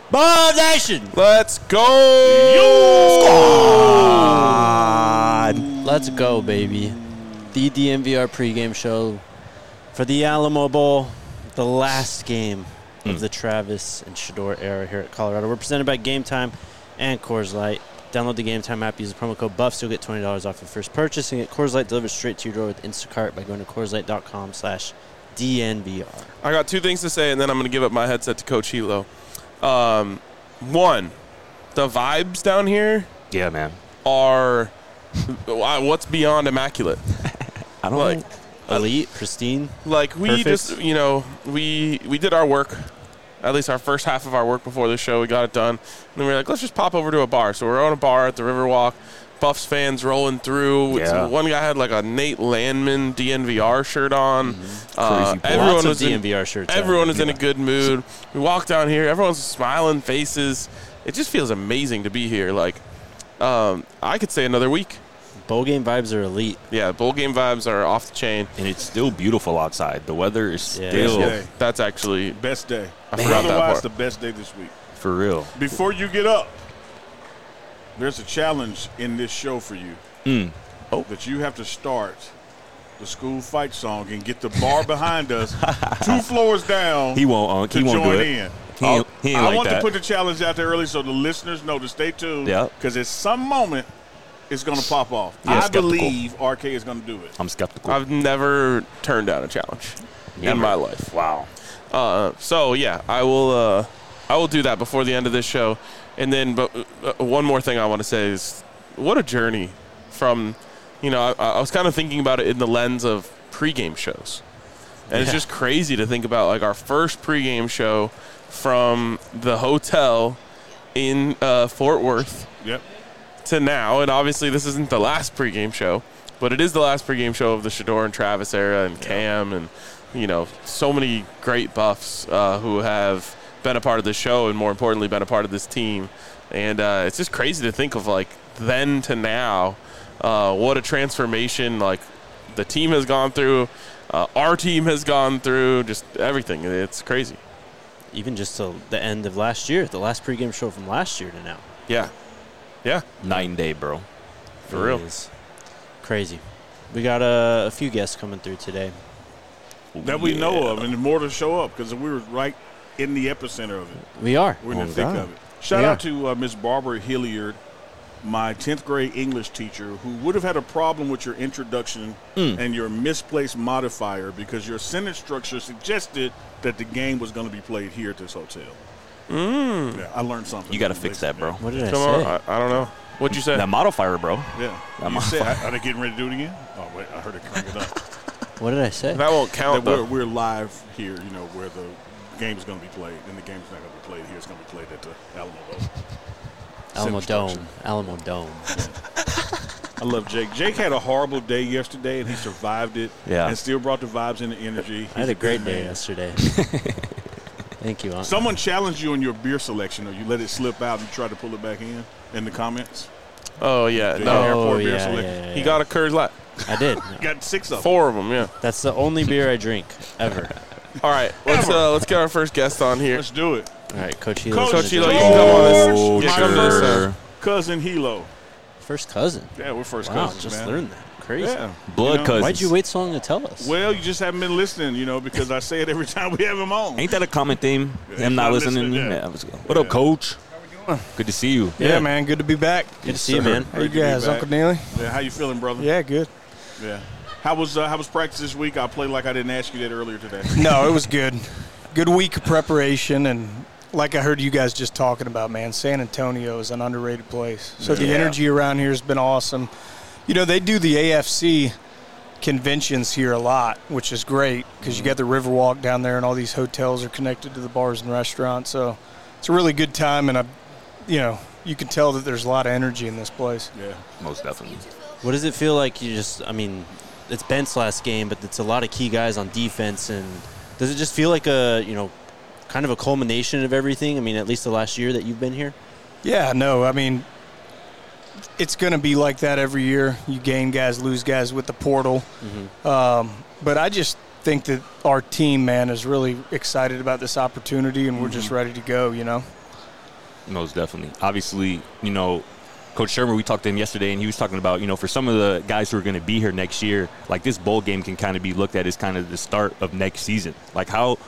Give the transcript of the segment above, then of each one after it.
Bob Nation! Let's go! Squad! Let's go, baby. The DNVR pregame show for the Alamo Bowl, the last game of the Travis and Shedeur era here at Colorado. We're presented by Game Time and Coors Light. Download the Game Time app, use the promo code BUFFS. You'll get $20 off your first purchase and get Coors Light delivered straight to your door with Instacart by going to CoorsLight.com/DNVR. I got two things to say, and then I'm going to give up my headset to Coach Hilo. One, the vibes down here are what's beyond immaculate. I don't know. Elite, pristine. Like, we perfect. just, we did our work, at least our first half of our work before the show. We got it done. And then we were like, let's just pop over to a bar. So we're on a bar at the Riverwalk. Buffs fans rolling through. One guy had like a Nate Landman DNVR shirt on. Everyone was DNVR shirts. Everyone is in a good mood. We walk down here. Everyone's smiling faces. It just feels amazing to be here. Like, I could say another week. Bowl game vibes are elite. Yeah, bowl game vibes are off the chain. And it's still beautiful outside. The weather is still. That's actually. Best day. I forgot that part. The best day this week. For real. Before you get up, there's a challenge in this show for you. That you have to start the school fight song and get the bar behind us 2 floors down. He won't to do join it. in. He ain't I like want that. to put the challenge out there early so the listeners know to stay tuned. Yep. Because at some moment, it's going to pop off. Yeah, I skeptical. believe RK is going to do it. I'm skeptical. I've never turned down a challenge in my life. Wow. So yeah, I will do that before the end of this show. And then, but one more thing I want to say is, what a journey from, I was kind of thinking about it in the lens of pregame shows. And it's just crazy to think about, like, our first pregame show from the hotel in Fort Worth to now. And obviously this isn't the last pregame show, but it is the last pregame show of the Shedeur and Travis era and Cam and, so many great Buffs who have been a part of this show and, more importantly, been a part of this team. And it's just crazy to think of, like, then to now, what a transformation, like, the team has gone through, our team has gone through, just everything. It's crazy. Even just till the end of last year, the last pregame show from last year to now. Yeah. Night and day, bro. For real. Is crazy. We got a few guests coming through today. That we know of, and more to show up because we were right in the epicenter of it. We are. We're in the thick of it. Shout out to Miss Barbara Hilliard, my 10th grade English teacher, who would have had a problem with your introduction and your misplaced modifier because your sentence structure suggested that the game was going to be played here at this hotel. Yeah, I learned something. You got to fix that, bro. What did I Come say? on. I don't know. What'd you say? That modifier, bro. Yeah. That You said, modifier. are they getting ready to do it again? Oh, wait, I heard it crank it up. What did I say? That won't count, That though. we're live here, where the game is going to be played, and the game's not going to be played here. It's going to be played at the Alamo Bowl. Alamo Sentence Dome. Alamo Dome. I love Jake. Jake had a horrible day yesterday, and he survived it. Yeah. And still brought the vibes and the energy. I had a great day man. yesterday. Thank you, Aunt. Someone challenged you on your beer selection, or you let it slip out and you tried to pull it back in the comments. Oh, yeah. The No. airport beer yeah, selection. yeah, He got a Coors Light. I did. You got 6 of them. 4 of them, yeah. That's the only beer I drink ever. All right. Let's get our first guest on here. Let's do it. All right, Coach Hilo. Coach Hilo, you can come on this. Oh, Yeah, come to this. sure. Cousin Hilo. First cousin. Yeah, we're first Wow, cousins, just man. learned that. Crazy. Yeah. Blood cousins. Why'd you wait so long to tell us? Well, you just haven't been listening, because I say it every time we have him on. Ain't that a common theme? Him not not listening? listening, yeah. Let's go. What up, Coach? Good to see you. Yeah, man. Good to be back. Good to see you, man. How you Great to be guys, back. Uncle Neely? Yeah, how you feeling, brother? Yeah, good. Yeah. How was practice this week? I played like I didn't ask you that earlier today. No, it was good. Good week of preparation, and like I heard you guys just talking about, man, San Antonio is an underrated place. So the energy around here has been awesome. They do the AFC conventions here a lot, which is great because you got the Riverwalk down there, and all these hotels are connected to the bars and restaurants. So it's a really good time, and you can tell that there's a lot of energy in this place. Yeah. Most definitely. What does it feel like? It's Bent's last game, but it's a lot of key guys on defense. And does it just feel like kind of a culmination of everything? At least the last year that you've been here? Yeah, no, it's going to be like that every year. You gain guys, lose guys with the portal. But I just think that our team, man, is really excited about this opportunity, and we're just ready to go, Most definitely. Obviously, Coach Shermer, we talked to him yesterday, and he was talking about, for some of the guys who are going to be here next year, like this bowl game can kind of be looked at as kind of the start of next season. Like how,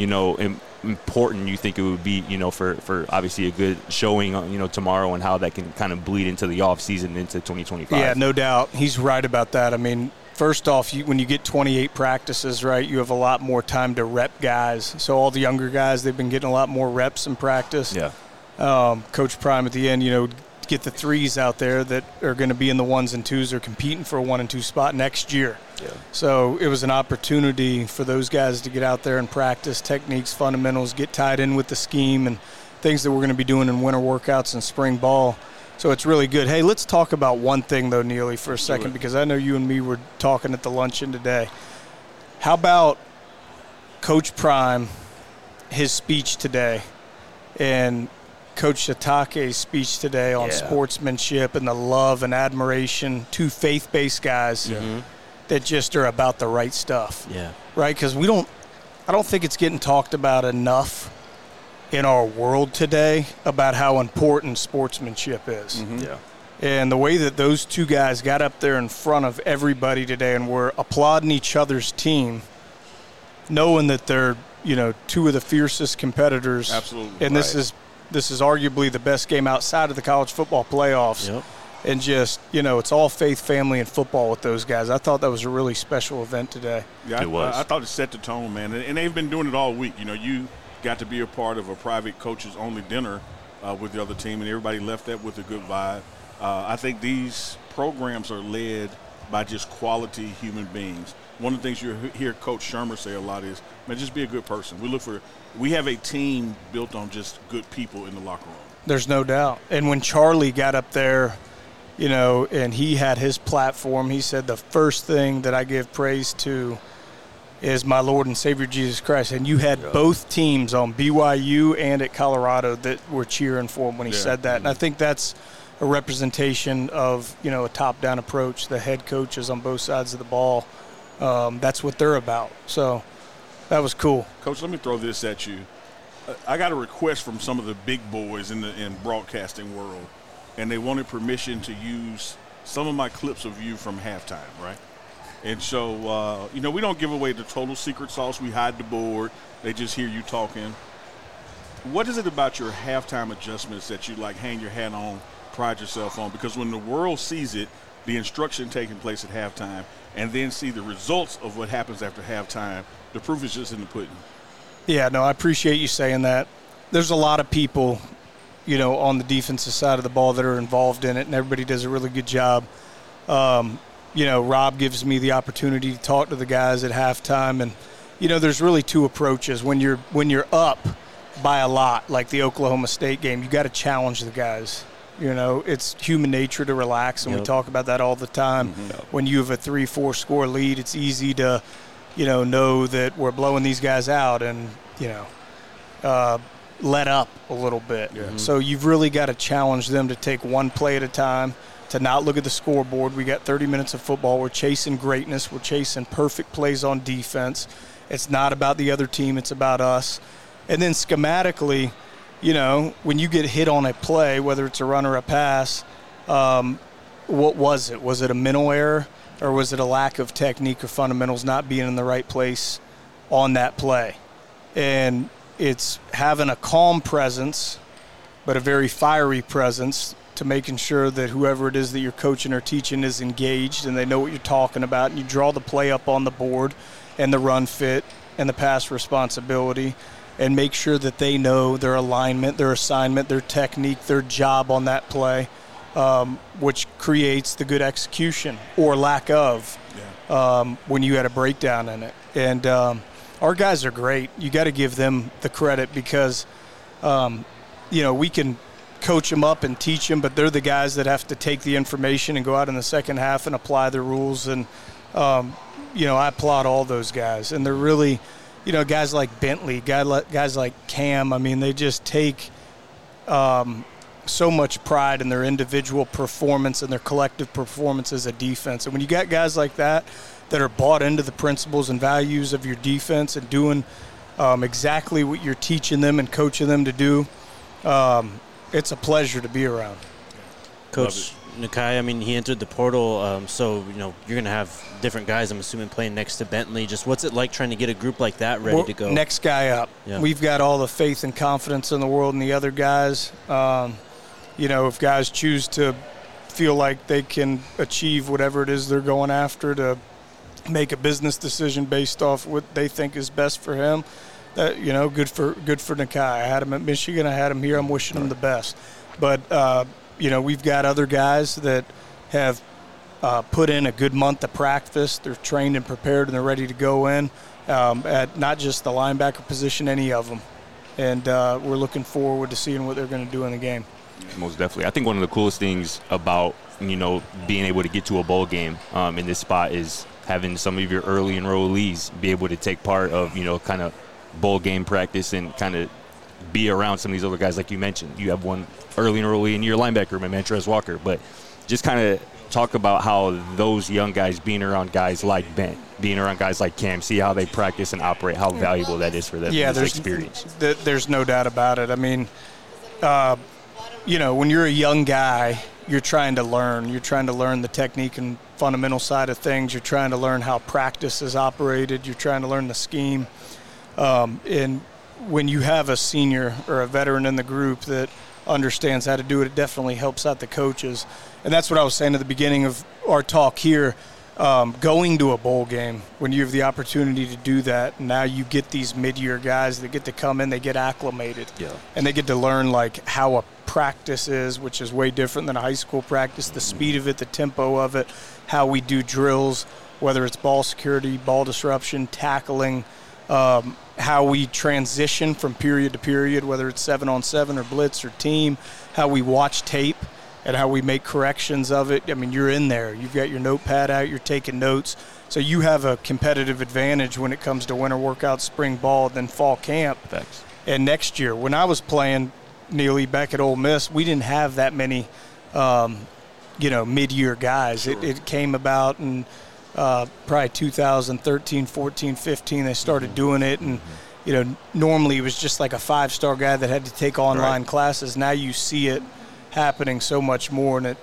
important you think it would be, for obviously a good showing, tomorrow, and how that can kind of bleed into the off season into 2025. Yeah, no doubt. He's right about that. I mean, first off, when you get 28 practices, right, you have a lot more time to rep guys. So all the younger guys, they've been getting a lot more reps in practice. Yeah. Coach Prime at the end, get the threes out there that are going to be in the 1s and 2s or competing for a 1 and 2 spot next year. Yeah. So it was an opportunity for those guys to get out there and practice techniques, fundamentals, get tied in with the scheme and things that we're going to be doing in winter workouts and spring ball. So it's really good. Hey, let's talk about one thing, though, Neely, for a second, because I know you and me were talking at the luncheon today. How about Coach Prime, his speech today, and Coach Sitake's speech today on sportsmanship and the love and admiration to faith-based guys that just are about the right stuff. Yeah. Right? Because I don't think it's getting talked about enough in our world today about how important sportsmanship is. Yeah. And the way that those two guys got up there in front of everybody today and were applauding each other's team, knowing that they're, two of the fiercest competitors. Absolutely. And this is arguably the best game outside of the college football playoffs. Yep. And just, it's all faith, family, and football with those guys. I thought that was a really special event today. Yeah, It was. I thought it set the tone, man. And they've been doing it all week. You got to be a part of a private coaches-only dinner with the other team, and everybody left that with a good vibe. I think these programs are led by just quality human beings. One of the things you hear Coach Shermer say a lot is, man, just be a good person. We have a team built on just good people in the locker room. There's no doubt. And when Charlie got up there, and he had his platform, he said the first thing that I give praise to is my Lord and Savior Jesus Christ. And you had both teams on BYU and at Colorado that were cheering for him when he said that. And I think that's a representation of, a top-down approach. The head coaches on both sides of the ball, that's what they're about. So that was cool. Coach, let me throw this at you. I got a request from some of the big boys in broadcasting world, and they wanted permission to use some of my clips of you from halftime, right? And so, we don't give away the total secret sauce. We hide the board. They just hear you talking. What is it about your halftime adjustments that you, hang your hat on, pride yourself on? Because when the world sees it, the instruction taking place at halftime, and then see the results of what happens after halftime, the proof is just in the pudding. Yeah, no, I appreciate you saying that. There's a lot of people, on the defensive side of the ball that are involved in it, and everybody does a really good job. Rob gives me the opportunity to talk to the guys at halftime, and, there's really two approaches. When you're up by a lot, like the Oklahoma State game, you got to challenge the guys. It's human nature to relax, and we talk about that all the time. When you have a 3-4 score lead, it's easy to, know that we're blowing these guys out and, let up a little bit. So you've really got to challenge them to take one play at a time, to not look at the scoreboard. We got 30 minutes of football. We're chasing greatness. We're chasing perfect plays on defense. It's not about the other team. It's about us. And then schematically, when you get hit on a play, whether it's a run or a pass, what was it? Was it a mental error, or was it a lack of technique or fundamentals not being in the right place on that play? And it's having a calm presence, but a very fiery presence, to making sure that whoever it is that you're coaching or teaching is engaged and they know what you're talking about, and you draw the play up on the board and the run fit and the pass responsibility, and make sure that they know their alignment, their assignment, their technique, their job on that play, which creates the good execution or lack of when you had a breakdown in it. And our guys are great. You got to give them the credit because, we can coach them up and teach them, but they're the guys that have to take the information and go out in the second half and apply the rules. And, I applaud all those guys. And they're really – guys like Bentley, guys like Cam, I mean, they just take so much pride in their individual performance and their collective performance as a defense. And when you got guys like that are bought into the principles and values of your defense and doing exactly what you're teaching them and coaching them to do, it's a pleasure to be around. Coach Nakai, I mean, he entered the portal, so, you're going to have different guys, I'm assuming, playing next to Bentley. Just what's it like trying to get a group like that ready to go? Next guy up. Yeah. We've got all the faith and confidence in the world in the other guys. If guys choose to feel like they can achieve whatever it is they're going after, to make a business decision based off what they think is best for him, good for Nakai. I had him at Michigan. I had him here. I'm wishing him the best. But, we've got other guys that have put in a good month of practice. They're trained and prepared, and they're ready to go in at not just the linebacker position, any of them. And we're looking forward to seeing what they're going to do in the game. Most definitely. I think one of the coolest things about, being able to get to a bowl game in this spot is having some of your early enrollees be able to take part of, kind of bowl game practice and kind of be around some of these other guys. Like you mentioned, you have one early enrollee in your linebacker room, Montrez Walker. But just kind of talk about how those young guys, being around guys like Ben, being around guys like Cam, see how they practice and operate, how valuable that is for them. Yeah, there's experience. There's no doubt about it. I mean, when you're a young guy, you're trying to learn. You're trying to learn the technique and fundamental side of things. You're trying to learn how practice is operated. You're trying to learn the scheme. And when you have a senior or a veteran in the group that understands how to do it, it definitely helps out the coaches. And that's what I was saying at the beginning of our talk here. Going to a bowl game, when you have the opportunity to do that, now you get these mid-year guys that get to come in, they get acclimated. Yeah. And they get to learn, how a practice is, which is way different than a high school practice, the speed of it, the tempo of it, how we do drills, whether it's ball security, ball disruption, tackling, how we transition from period to period, whether it's 7-on-7 or blitz or team, how we watch tape and how we make corrections of it. I mean, you're in there. You've got your notepad out. You're taking notes. So you have a competitive advantage when it comes to winter workout, spring ball, then fall camp. Thanks. And next year, when I was playing, Neely, back at Ole Miss, we didn't have that many, mid-year guys. Sure. It came about in probably 2013, 14, 15. They started doing it. And, normally it was just like a 5-star guy that had to take online classes. Now you see it happening so much more, and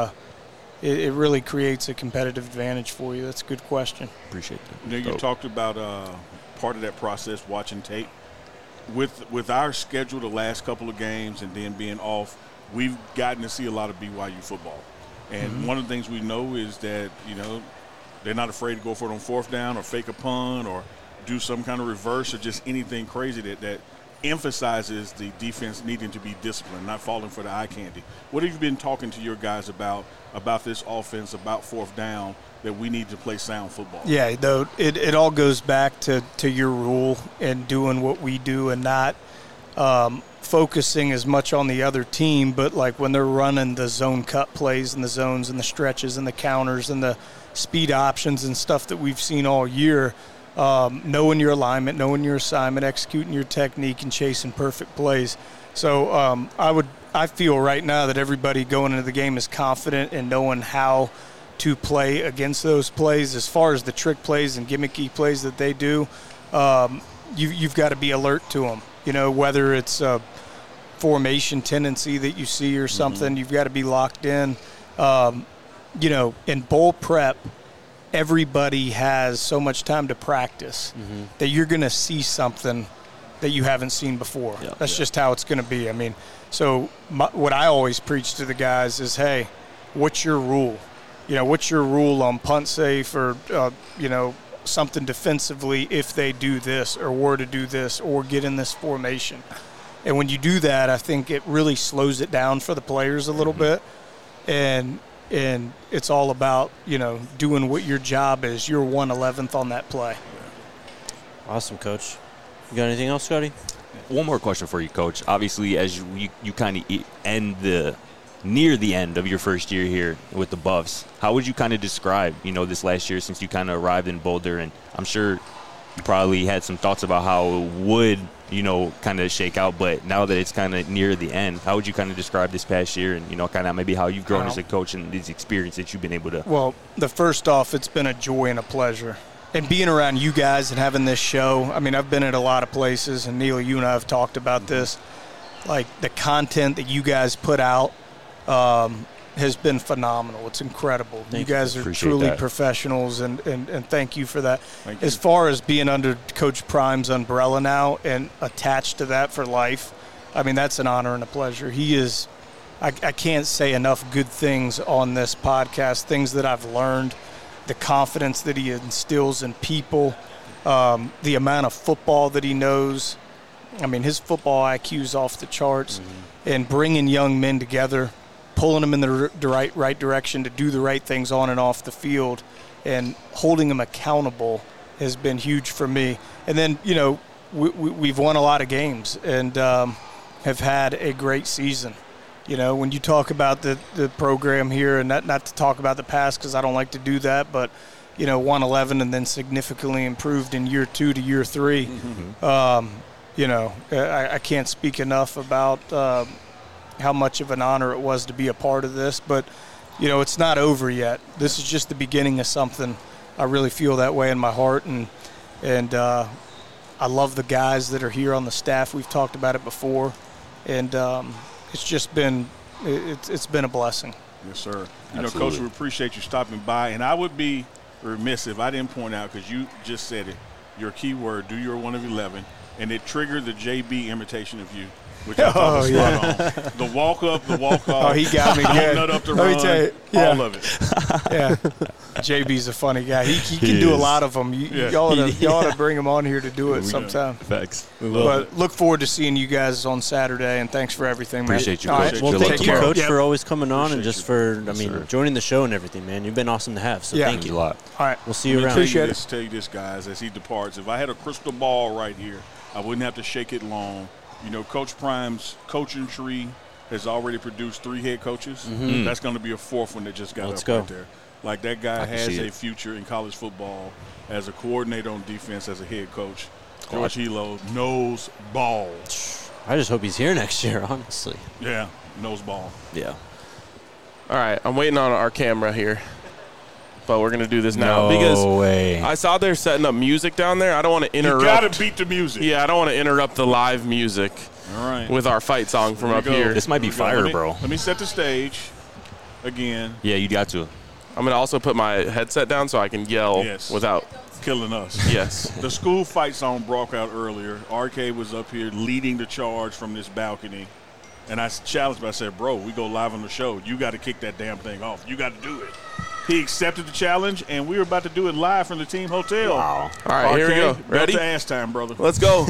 it really creates a competitive advantage for you. That's a good question. Appreciate that. You talked about part of that process, watching tape. With our schedule the last couple of games and then being off, we've gotten to see a lot of BYU football. And one of the things we know is that, they're not afraid to go for it on fourth down or fake a punt or do some kind of reverse or just anything crazy that emphasizes the defense needing to be disciplined, not falling for the eye candy. What have you been talking to your guys about this offense, about fourth down, that we need to play sound football? Yeah, though it all goes back to your rule and doing what we do and not focusing as much on the other team, but like when they're running the zone cut plays and the zones and the stretches and the counters and the speed options and stuff that we've seen all year, knowing your alignment, knowing your assignment, executing your technique, and chasing perfect plays. So I feel right now that everybody going into the game is confident in knowing how to play against those plays. As far as the trick plays and gimmicky plays that they do, you've got to be alert to them. Whether it's a formation tendency that you see or something, you've got to be locked in. In bowl prep, everybody has so much time to practice that you're going to see something that you haven't seen before. Yeah, That's just how it's going to be. I mean, so what I always preach to the guys is, hey, what's your rule? What's your rule on punt safe or, something defensively if they do this or were to do this or get in this formation? And when you do that, I think it really slows it down for the players a little bit. And it's all about, doing what your job is. You're 1/11th on that play. Awesome, Coach. You got anything else, Scotty? One more question for you, Coach. Obviously, as you kind of end near the end of your first year here with the Buffs, how would you kind of describe, this last year since you kind of arrived in Boulder? And I'm sure you probably had some thoughts about how it would, kind of shake out. But now that it's kind of near the end, how would you kind of describe this past year and, kind of maybe how you've grown as a coach and these experiences that you've been able to? Well, the first off, it's been a joy and a pleasure. And being around you guys and having this show, I mean, I've been at a lot of places, and Neil, you and I have talked about this. Like, the content that you guys put out has been phenomenal. It's incredible. You guys are truly professionals, and thank you for that. As far as being under Coach Prime's umbrella now and attached to that for life, I mean, that's an honor and a pleasure. He is – I can't say enough good things on this podcast, things that I've learned, the confidence that he instills in people, the amount of football that he knows. I mean, his football IQ is off the charts, and bringing young men together, pulling them in the right direction to do the right things on and off the field, and holding them accountable has been huge for me. And then, you know, we've won a lot of games and have had a great season. You know, when you talk about the program here, and not to talk about the past because I don't like to do that, but, you know, 1-11 and then significantly improved in year 2 to year 3. You know, I can't speak enough about how much of an honor it was to be a part of this. But, you know, it's not over yet. This is just the beginning of something. I really feel that way in my heart. And I love the guys that are here on the staff. We've talked about it before. And it's just been it's been a blessing. Yes, sir. You know, Coach, we appreciate you stopping by. And I would be remiss if I didn't point out, because you just said it, your key word, do your 1 of 11. And it triggered the JB imitation of you, which I thought was spot on. The walk up, the walk off. Oh, he got me good. Nut up the run, all of it. Yeah, JB's a funny guy. He can do a lot of them. Y'all ought to bring him on here to do it sometime. Facts. But look forward to seeing you guys on Saturday, and thanks for everything, man. Appreciate you, Coach. Well, thank you, Coach, for always coming on and just for, joining the show and everything, man. You've been awesome to have, so thank you. A lot. All right. We'll see you around. Appreciate it. Tell you this, guys, as he departs, if I had a crystal ball right here, I wouldn't have to shake it long. You know, Coach Prime's coaching tree has already produced 3 head coaches. That's going to be a 4th one that just got up right there. Like, that guy has a future in college football as a coordinator on defense, as a head coach. George Hilo knows ball. I just hope he's here next year, honestly. Yeah, knows ball. Yeah. All right, I'm waiting on our camera here. But we're going to do this now because I saw they're setting up music down there. I don't want to interrupt. You got to beat the music. Yeah, I don't want to interrupt the live music with our fight song from up here. This might be fire, bro. Let me set the stage again. Yeah, you got to. I'm going to also put my headset down so I can yell without killing us. Yes. The school fight song broke out earlier. RK was up here leading the charge from this balcony. And I challenged him. I said, bro, we go live on the show. You got to kick that damn thing off. You got to do it. He accepted the challenge, and we were about to do it live from the team hotel. Wow. All right, here we go. Ready? Belt to ass time, brother. Let's go.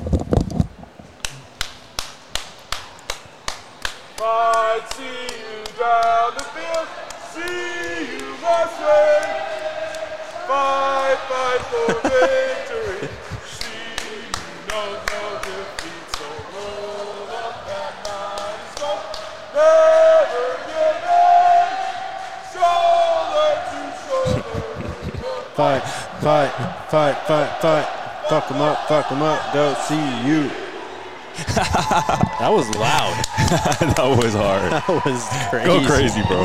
Fight, see you down the field. See you, my friend. Fight, fight for victory. See you, no defeat. So roll up that mighty smoke. Never give in. Shoulder to shoulder. Fight. Fuck him up, go see you. That was loud. That was hard. That was crazy. Go crazy, bro.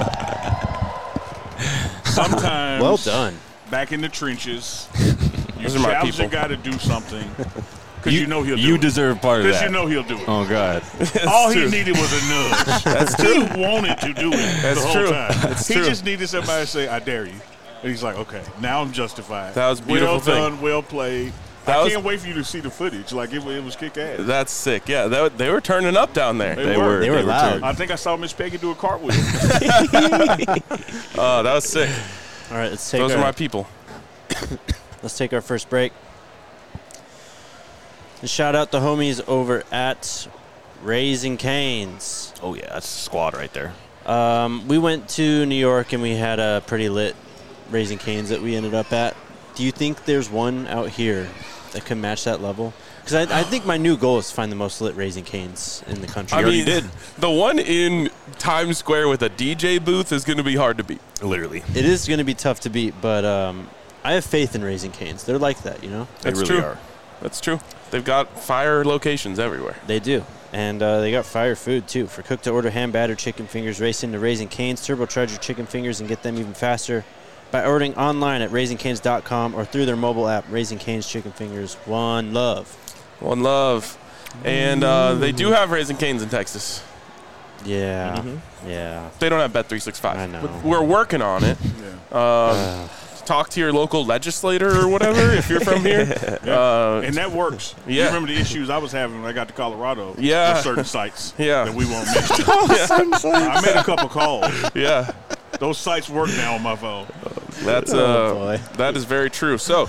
Sometimes, well done. Back in the trenches, you Those are my challenge the people. guy to do something because you know he'll do it. You deserve part of that. Because you know he'll do it. Oh, God. All he needed was a nudge. That's true. He wanted to do it That's the whole true. time. That's He true. just needed somebody to say, I dare you. And he's like, okay, now I'm justified. That was a beautiful well thing. done, well played. That I was- can't wait for you to see the footage. Like, it was kick ass. That's sick. Yeah, they were turning up down there. They were. They were loud. turned. I think I saw Miss Peggy do a cartwheel. Oh, that was sick. All right, let's take Those are our, my people. let's take our first break. And shout out the homies over at Raising Cane's. Oh, yeah. That's a squad right there. We went to New York and we had a pretty lit Raising Cane's that we ended up at. Do you think there's one out here that can match that level? Because I think my new goal is to find the most lit Raising Cane's in the country. I mean, the one in Times Square with a DJ booth is going to be hard to beat. Literally. It is going to be tough to beat, but I have faith in Raising Cane's. They're like that, you know? They That's really true. are. That's true. They've got fire locations everywhere. They do. And they got fire food, too. For cook-to-order hand-battered chicken fingers, race into Raising Cane's, turbocharge your chicken fingers, and get them even faster by ordering online at RaisingCanes.com or through their mobile app, Raising Cane's Chicken Fingers. One love. One love. And they do have Raising Cane's in Texas. Yeah. Yeah. They don't have Bet365. I know. But we're working on it. Talk to your local legislator or whatever if you're from here. And that works. Yeah. You remember the issues I was having when I got to Colorado Yeah. with certain sites Yeah. that we won't mention. I made a couple calls. Yeah. Those sites work now on my phone. That's boy. that is very true. So,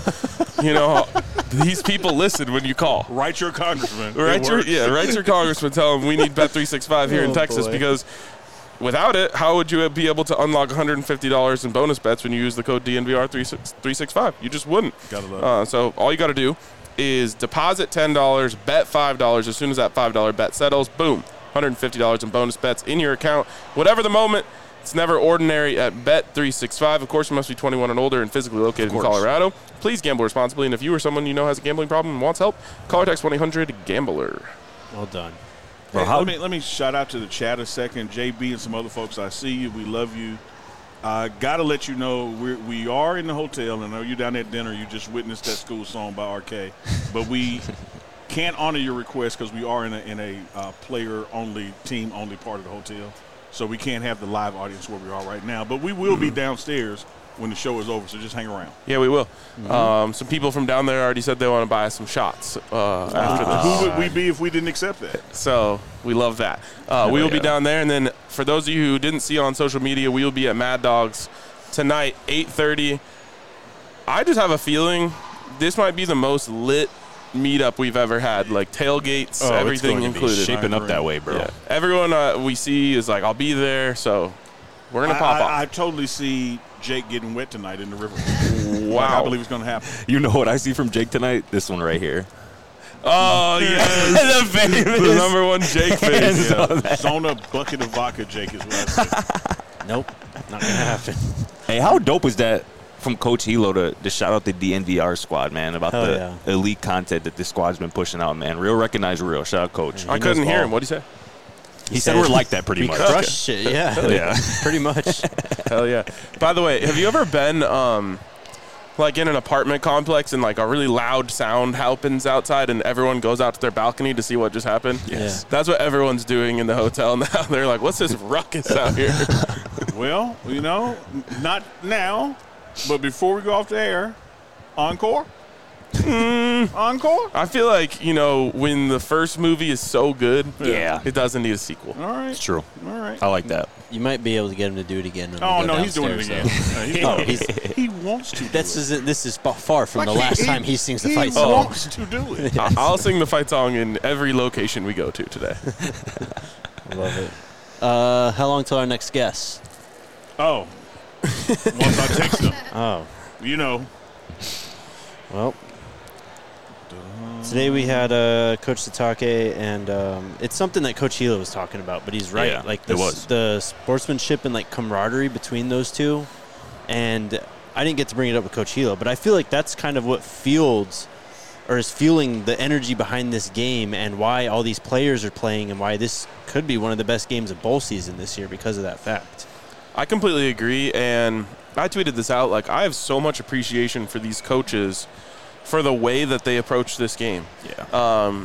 these people listen when you call. Write your congressman. Write your congressman. Tell them we need Bet365 here in Oh, Texas boy. because without it, how would you be able to unlock $150 in bonus bets when you use the code DNVR365? You just wouldn't. Gotta love So all you got to do is deposit $10, bet $5. As soon as that $5 bet settles, boom, $150 in bonus bets in your account. Whatever the moment. It's never ordinary at Bet365. Of course, you must be 21 and older and physically located in Colorado. Please gamble responsibly, and if you or someone you know has a gambling problem and wants help, call or text 1-800-GAMBLER. Well done. Hey, let me shout out to the chat a second. JB and some other folks, I see you. We love you. Got to let you know we are in the hotel. I know you're down at dinner. You just witnessed that school song by RK. But we can't honor your request because we are in a player-only, team-only part of the hotel. So we can't have the live audience where we are right now. But we will be downstairs when the show is over, so just hang around. Yeah, we will. Some people from down there already said they want to buy us some shots after this. Who would we be if we didn't accept that? So we love that. We will be down there. And then for those of you who didn't see on social media, we will be at Mad Dogs tonight, 8:30. I just have a feeling this might be the most lit meetup we've ever had, like tailgates, everything included. Shaping up that way, bro. Yeah. Everyone we see is like, I'll be there, so we're going to pop I off. totally see Jake getting wet tonight in the river. Wow. I believe it's going to happen. You know what I see from Jake tonight? This one right here. Oh, yes. The number one Jake face. Yeah. Zona bucket of vodka, Jake, is what I say. Nope. Not going to happen. Hey, how dope was that from Coach Hilo to shout out the DNVR squad, man, about Hell the yeah. elite content that this squad's been pushing out, man. Real recognize real. Shout out, Coach. I couldn't hear him. What'd he say? He said we're like that pretty We much. crushed it, yeah. Yeah. Pretty much. Hell yeah. By the way, have you ever been like in an apartment complex and like a really loud sound happens outside and everyone goes out to their balcony to see what just happened? Yes. That's what everyone's doing in the hotel now. They're like, what's this ruckus out here? Well, not now, but before we go off the air, encore? Encore? I feel like, when the first movie is so good, Yeah. it doesn't need a sequel. All right. It's true. All right. I like that. You might be able to get him to do it again. When Oh, we go no, he's doing it downstairs, again. though. He wants to do This is far from Like the last time he sings the he fight song. wants to do it. I'll sing the fight song in every location we go to today. Love it. How long till our next guest? Oh. Once I text him. Oh, well. Today we had Coach Satake, and it's something that Coach Hilo was talking about, but he's right. Yeah, like it was. the sportsmanship and like camaraderie between those two. And I didn't get to bring it up with Coach Hilo, but I feel like that's kind of what is fueling the energy behind this game and why all these players are playing and why this could be one of the best games of bowl season this year because of that fact. I completely agree, and I tweeted this out. Like, I have so much appreciation for these coaches for the way that they approach this game. Yeah.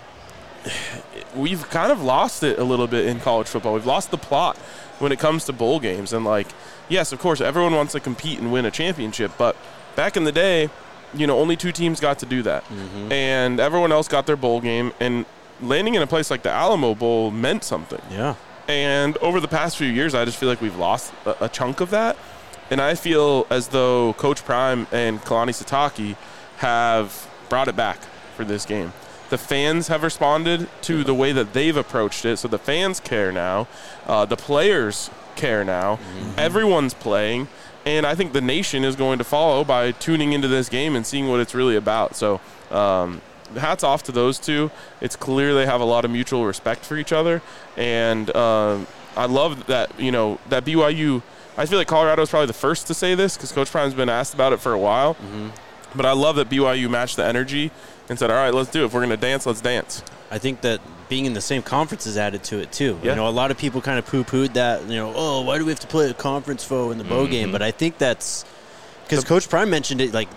We've kind of lost it a little bit in college football. We've lost the plot when it comes to bowl games. And, like, yes, of course, everyone wants to compete and win a championship. But back in the day, only two teams got to do that. Mm-hmm. And everyone else got their bowl game. And landing in a place like the Alamo Bowl meant something. Yeah. And over the past few years, I just feel like we've lost a chunk of that. And I feel as though Coach Prime and Kalani Sitake have brought it back for this game. The fans have responded to the way that they've approached it, so the fans care now. The players care now. Mm-hmm. Everyone's playing, and I think the nation is going to follow by tuning into this game and seeing what it's really about. So hats off to those two. It's clear they have a lot of mutual respect for each other, and I love that, that BYU – I feel like Colorado is probably the first to say this because Coach Prime's been asked about it for a while. Mm-hmm. But I love that BYU matched the energy and said, all right, let's do it. If we're going to dance, let's dance. I think that being in the same conference has added to it, too. Yeah. A lot of people kind of poo-pooed that, why do we have to play a conference foe in the bowl game? But I think that's – because Coach Prime mentioned it, like,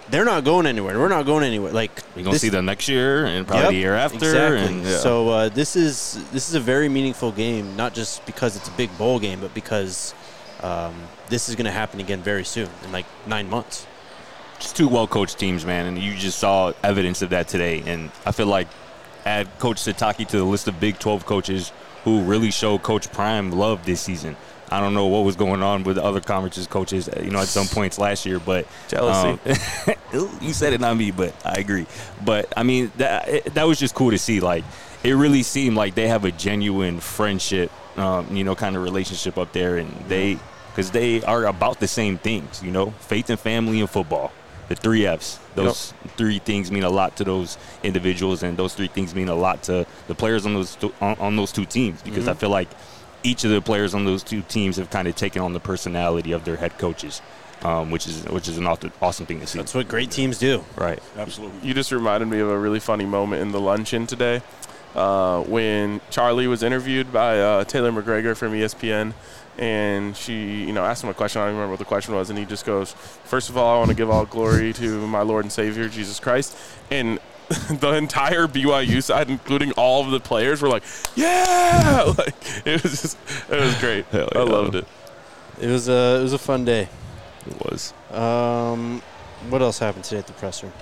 they're not going anywhere. We're not going anywhere. Like You're going to see them next year and probably the year after. Exactly. And, yeah. So this is a very meaningful game, not just because it's a big bowl game, but because this is going to happen again very soon, in like 9 months. Just two well-coached teams, man, and you just saw evidence of that today. And I feel like add Coach Sitake to the list of Big 12 coaches who really showed Coach Prime love this season. I don't know what was going on with the other conferences coaches, at some points last year, but Jealousy. You said it, not me, but I agree. But I mean, that was just cool to see. Like, it really seemed like they have a genuine friendship, kind of relationship up there, and because they are about the same things, faith and family and football, the 3 Fs. Those 3 things mean a lot to those individuals, and those 3 things mean a lot to the players on those 2 teams, because I feel like each of the players on those 2 teams have kind of taken on the personality of their head coaches, which is an awesome thing to see. That's what great teams do. Right. Absolutely. You just reminded me of a really funny moment in the luncheon today when Charlie was interviewed by Taylor McGregor from ESPN, and she, asked him a question. I don't remember what the question was, and he just goes, "First of all, I want to give all glory to my Lord and Savior, Jesus Christ." And the entire BYU side, including all of the players, were like, "Yeah!" Like, it was great. Yeah. I loved it. It was a fun day. It was. What else happened today at the presser?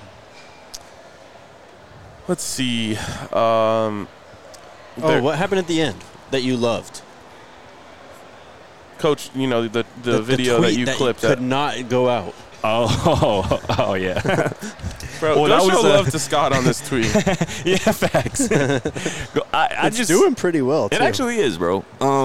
Let's see. What happened at the end that you loved? Coach, the video that you clipped could not go out. Oh yeah. Bro, Well, go that show was love to Scott on this tweet. Yeah, facts. It's doing pretty well, too. It actually is, bro.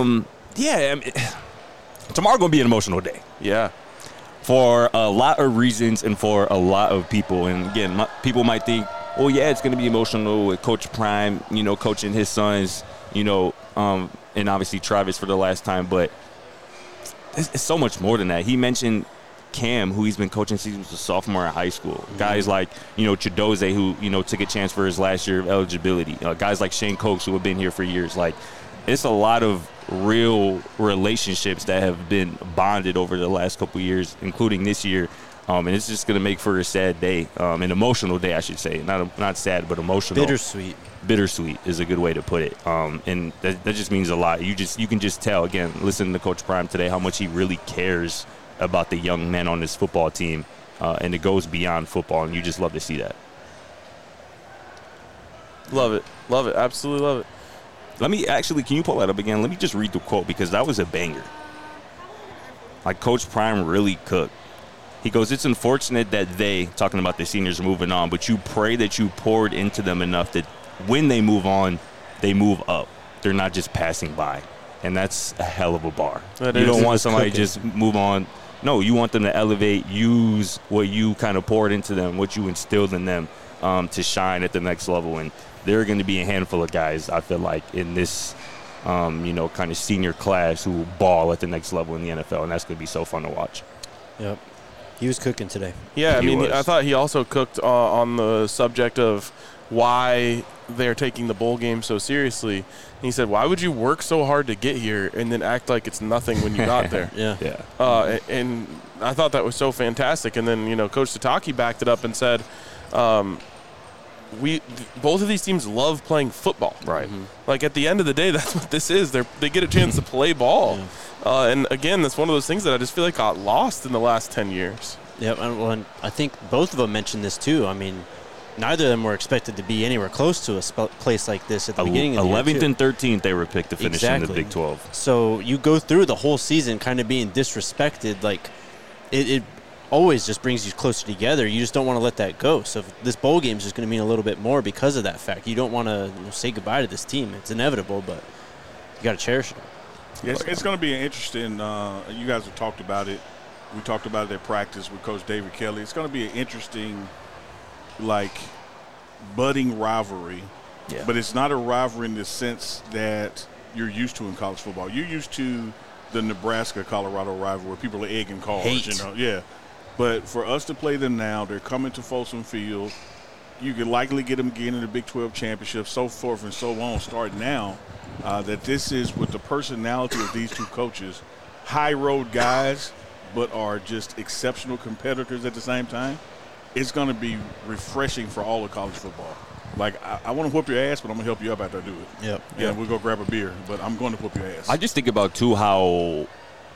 Tomorrow gonna be an emotional day Yeah. for a lot of reasons and for a lot of people. And again, people might think, well, yeah, it's gonna be emotional with Coach Prime, coaching his sons, and obviously Travis for the last time, but it's so much more than that. He mentioned Cam, who he's been coaching since he was a sophomore in high school. Mm-hmm. Guys like, Chidoze, who took a chance for his last year of eligibility. Guys like Shane Cokes, who have been here for years. Like, it's a lot of real relationships that have been bonded over the last couple of years, including this year. And it's just going to make for a sad day, an emotional day, I should say. Not sad, but emotional. Bittersweet. Bittersweet is a good way to put it. And that just means a lot. You can just tell, again, listening to Coach Prime today, how much he really cares about the young men on this football team. And it goes beyond football, and you just love to see that. Love it. Love it. Absolutely love it. Can you pull that up again? Let me just read the quote, because that was a banger. Like, Coach Prime really cooked. He goes, "It's unfortunate that talking about the seniors, are moving on, but you pray that you poured into them enough that when they move on, they move up. They're not just passing by." And that's a hell of a bar. You don't want somebody to just move on. No, you want them to elevate, use what you kind of poured into them, what you instilled in them, to shine at the next level. And there are going to be a handful of guys, I feel like, in this, kind of senior class who ball at the next level in the NFL, and that's going to be so fun to watch. Yep. He was cooking today. Yeah, He was. I thought he also cooked on the subject of why they're taking the bowl game so seriously. And he said, "Why would you work so hard to get here and then act like it's nothing when you got there?" Yeah. And I thought that was so fantastic. And then, Coach Sitake backed it up and said, both of these teams love playing football. Right. Mm-hmm. Like, at the end of the day, that's what this is. They get a chance to play ball. Yeah. And again, that's one of those things that I just feel like got lost in the last 10 years. Yeah, and I think both of them mentioned this too. I mean, neither of them were expected to be anywhere close to a place like this at the beginning of the year. 11th and 13th, they were picked to finish in the Big 12. So you go through the whole season kind of being disrespected. Like, it always just brings you closer together. You just don't want to let that go. So this bowl game is just going to mean a little bit more because of that fact. You don't want to say goodbye to this team. It's inevitable, but you got to cherish it. Yes, it's going to be an interesting. You guys have talked about it. We talked about it at practice with Coach David Kelly. It's going to be an interesting, budding rivalry. Yeah. But it's not a rivalry in the sense that you're used to in college football. You're used to the Nebraska-Colorado rivalry where people are egging cars. Hate. Yeah. But for us to play them now, they're coming to Folsom Field. You could likely get them again in the Big 12 championship, so forth and so on, start now. That this is with the personality of these two coaches, high road guys, but are just exceptional competitors at the same time. it's going to be refreshing for all of college football. Like, I want to whoop your ass, but I'm going to help you up after I do it. Yep. And we'll go grab a beer, but I'm going to whoop your ass. I just think about, too, how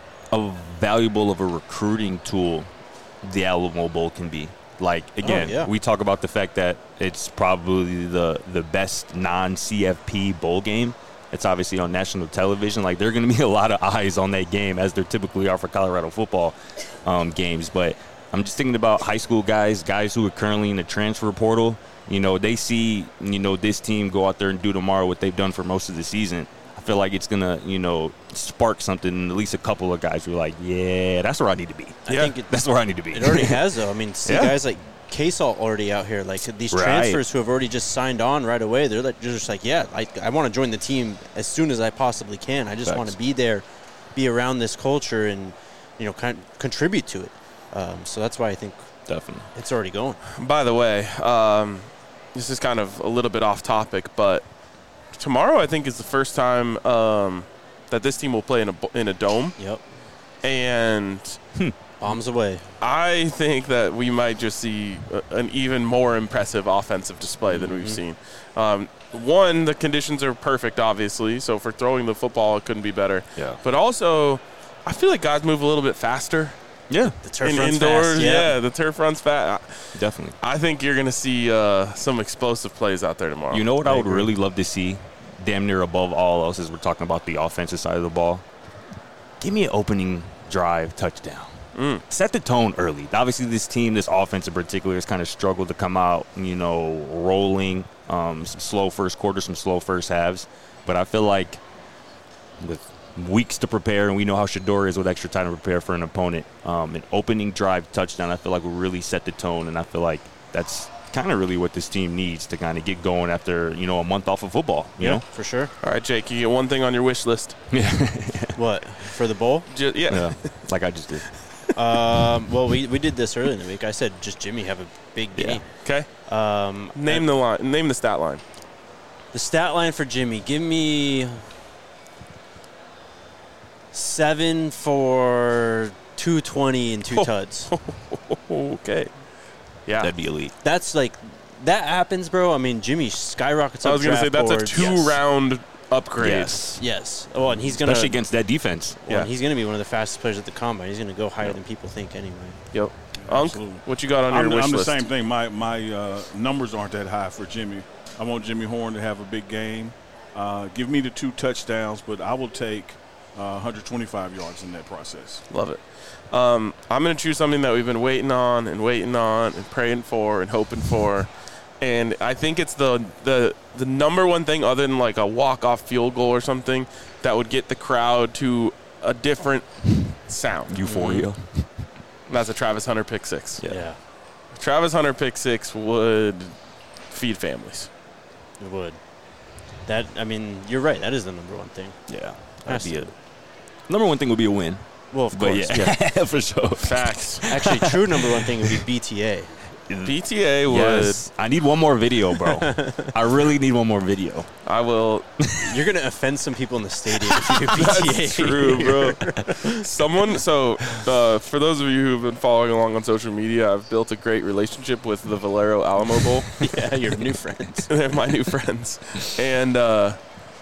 valuable of a recruiting tool the Alamo Bowl can be. Like, again, we talk about the fact that it's probably the best non-CFP bowl game. It's obviously on national television. Like, there are going to be a lot of eyes on that game, as there typically are for Colorado football games. But I'm just thinking about high school guys who are currently in the transfer portal. You know, they see, you know, this team go out there and do tomorrow what they've done for most of the season. I feel like it's going to, you know, spark something in at least a couple of guys who are like, yeah, that's where I need to be. I think that's where I need to be. It already has, though. I mean, see guys like K-Salt already out here. Like, these transfers who have already just signed on right away, they're just like, yeah, I want to join the team as soon as I possibly can. I just want to be there, be around this culture, and, you know, kind of contribute to it. So that's why I think definitely it's already going. By the way, this is kind of a little bit off topic, but tomorrow I think is the first time that this team will play in a dome. Yep. And bombs away. I think that we might just see an even more impressive offensive display than we've seen. One, the conditions are perfect, obviously, so for throwing the football, it couldn't be better. Yeah. But also, I feel like guys move a little bit faster. Yeah. The turf runs indoors, fast. Yeah, the turf runs fast. Definitely. I think you're going to see some explosive plays out there tomorrow. You know what I would really love to see, damn near above all else, as we're talking about the offensive side of the ball? Give me an opening drive touchdown. Set the tone early. Obviously, this team, this offense in particular, has kind of struggled to come out, you know, rolling. Some slow first quarter, some slow first halves. But I feel like with weeks to prepare, and we know how Shedeur is with extra time to prepare for an opponent, an opening drive touchdown, I feel like will really set the tone, and I feel like that's kind of really what this team needs to kind of get going after, you know, a month off of football, you know? For sure. All right, Jake, you get one thing on your wish list. What? For the bowl? Yeah. Like I just did. Well, we did this earlier in the week. I said just Jimmy have a big game. Okay. Name the stat line. The stat line for Jimmy, give me 7 for 220 and 2 tuds. Okay. Yeah. That'd be elite. That's like, that happens, bro. I mean, Jimmy skyrockets up. I was going to say that's a 2-round upgrade. Yes. Oh, and he's going to, especially against that defense. And he's going to be one of the fastest players at the combine. He's going to go higher than people think anyway. Yep. Unc, what you got on your wish list? I'm the same thing. My numbers aren't that high for Jimmy. I want Jimmy Horn to have a big game. Give me the 2 touchdowns, but I will take 125 yards in that process. Love it. I'm going to choose something that we've been waiting on and praying for and hoping for. And I think it's the number one thing, other than like a walk-off field goal or something, that would get the crowd to a different sound. Euphoria. That's a Travis Hunter pick 6. Yeah. Travis Hunter pick 6 would feed families. It would. That, I mean, you're right. That is the number one thing. Yeah. Has That'd be to. it. Number one thing would be a win. Well, of But course. yeah, for sure. Facts. Actually, true number one thing would be BTA. BTA would. Yes. I need one more video, bro. I really need one more video. I will. You're going to offend some people in the stadium if you do BTA. That's true, bro. For those of you who've been following along on social media, I've built a great relationship with the Valero Alamo Bowl. Yeah, your new friends. They're my new friends. And a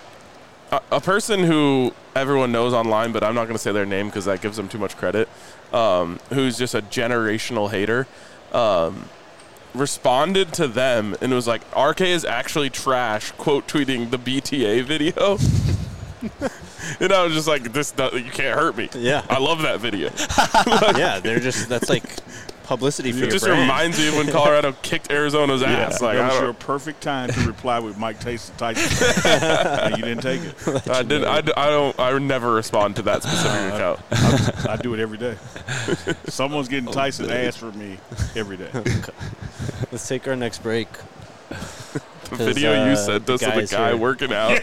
person who everyone knows online, but I'm not going to say their name because that gives them too much credit, who's just a generational hater, responded to them and was like, RK is actually trash, quote tweeting the BTA video. And I was just like, you can't hurt me. Yeah. I love that video. Yeah, that's like publicity for your It just brand. reminds me of when Colorado kicked Arizona's ass. Like, that was your perfect time to reply with Mike Tyson. And you didn't take it. I never respond to that specific account. I do it every day. Someone's getting Tyson ass for me every day. Let's take our next break. The video you sent us of the guy here. working out.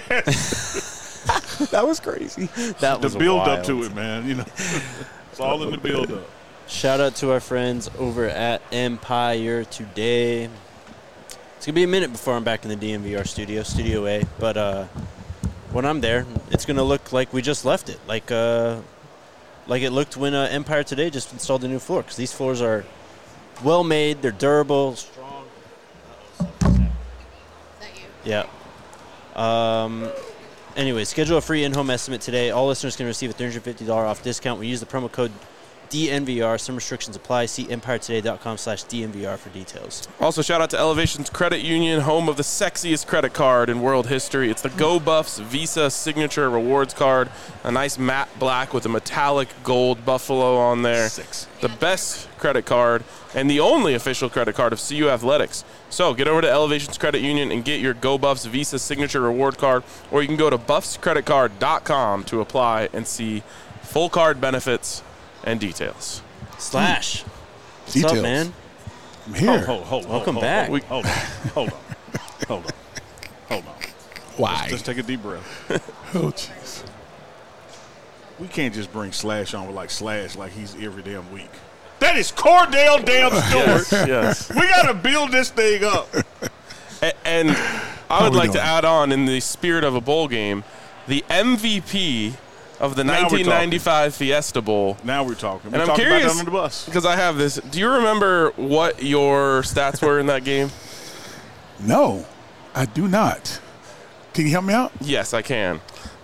That was crazy. That was the build wild. up to it, man. You know, it's all in the build up. Shout out to our friends over at Empire Today. It's going to be a minute before I'm back in the DMVR studio, Studio A. But when I'm there, it's going to look like we just left it. Like it looked when Empire Today just installed a new floor. Because these floors are well made. They're durable, strong. Is that you? Yeah. Anyway, schedule a free in-home estimate today. All listeners can receive a $350 off discount. We use the promo code DNVR. Some restrictions apply. See EmpireToday.com/DNVR for details. Also, shout out to Elevations Credit Union, home of the sexiest credit card in world history. It's the Go Buffs Visa Signature Rewards Card. A nice matte black with a metallic gold buffalo on there. The best credit card and the only official credit card of CU Athletics. So get over to Elevations Credit Union and get your Go Buffs Visa Signature Reward Card, or you can go to buffscreditcard.com to apply and see full card benefits and details. Slash. What's Details. up, man? I'm here. Welcome back. Hold on. Why? Just take a deep breath. Oh, jeez. We can't just bring Slash on with Slash like he's every damn week. That is Cordell damn Stewart. Yes. We got to build this thing up. And I would we like to doing? add on, in the spirit of a bowl game, the MVP of the Now we're 1995 Fiesta Bowl. Now we're talking. And We're I'm talking curious, about that on the bus. because I have this. Do you remember what your stats were in that game? No, I do not. Can you help me out? Yes, I can.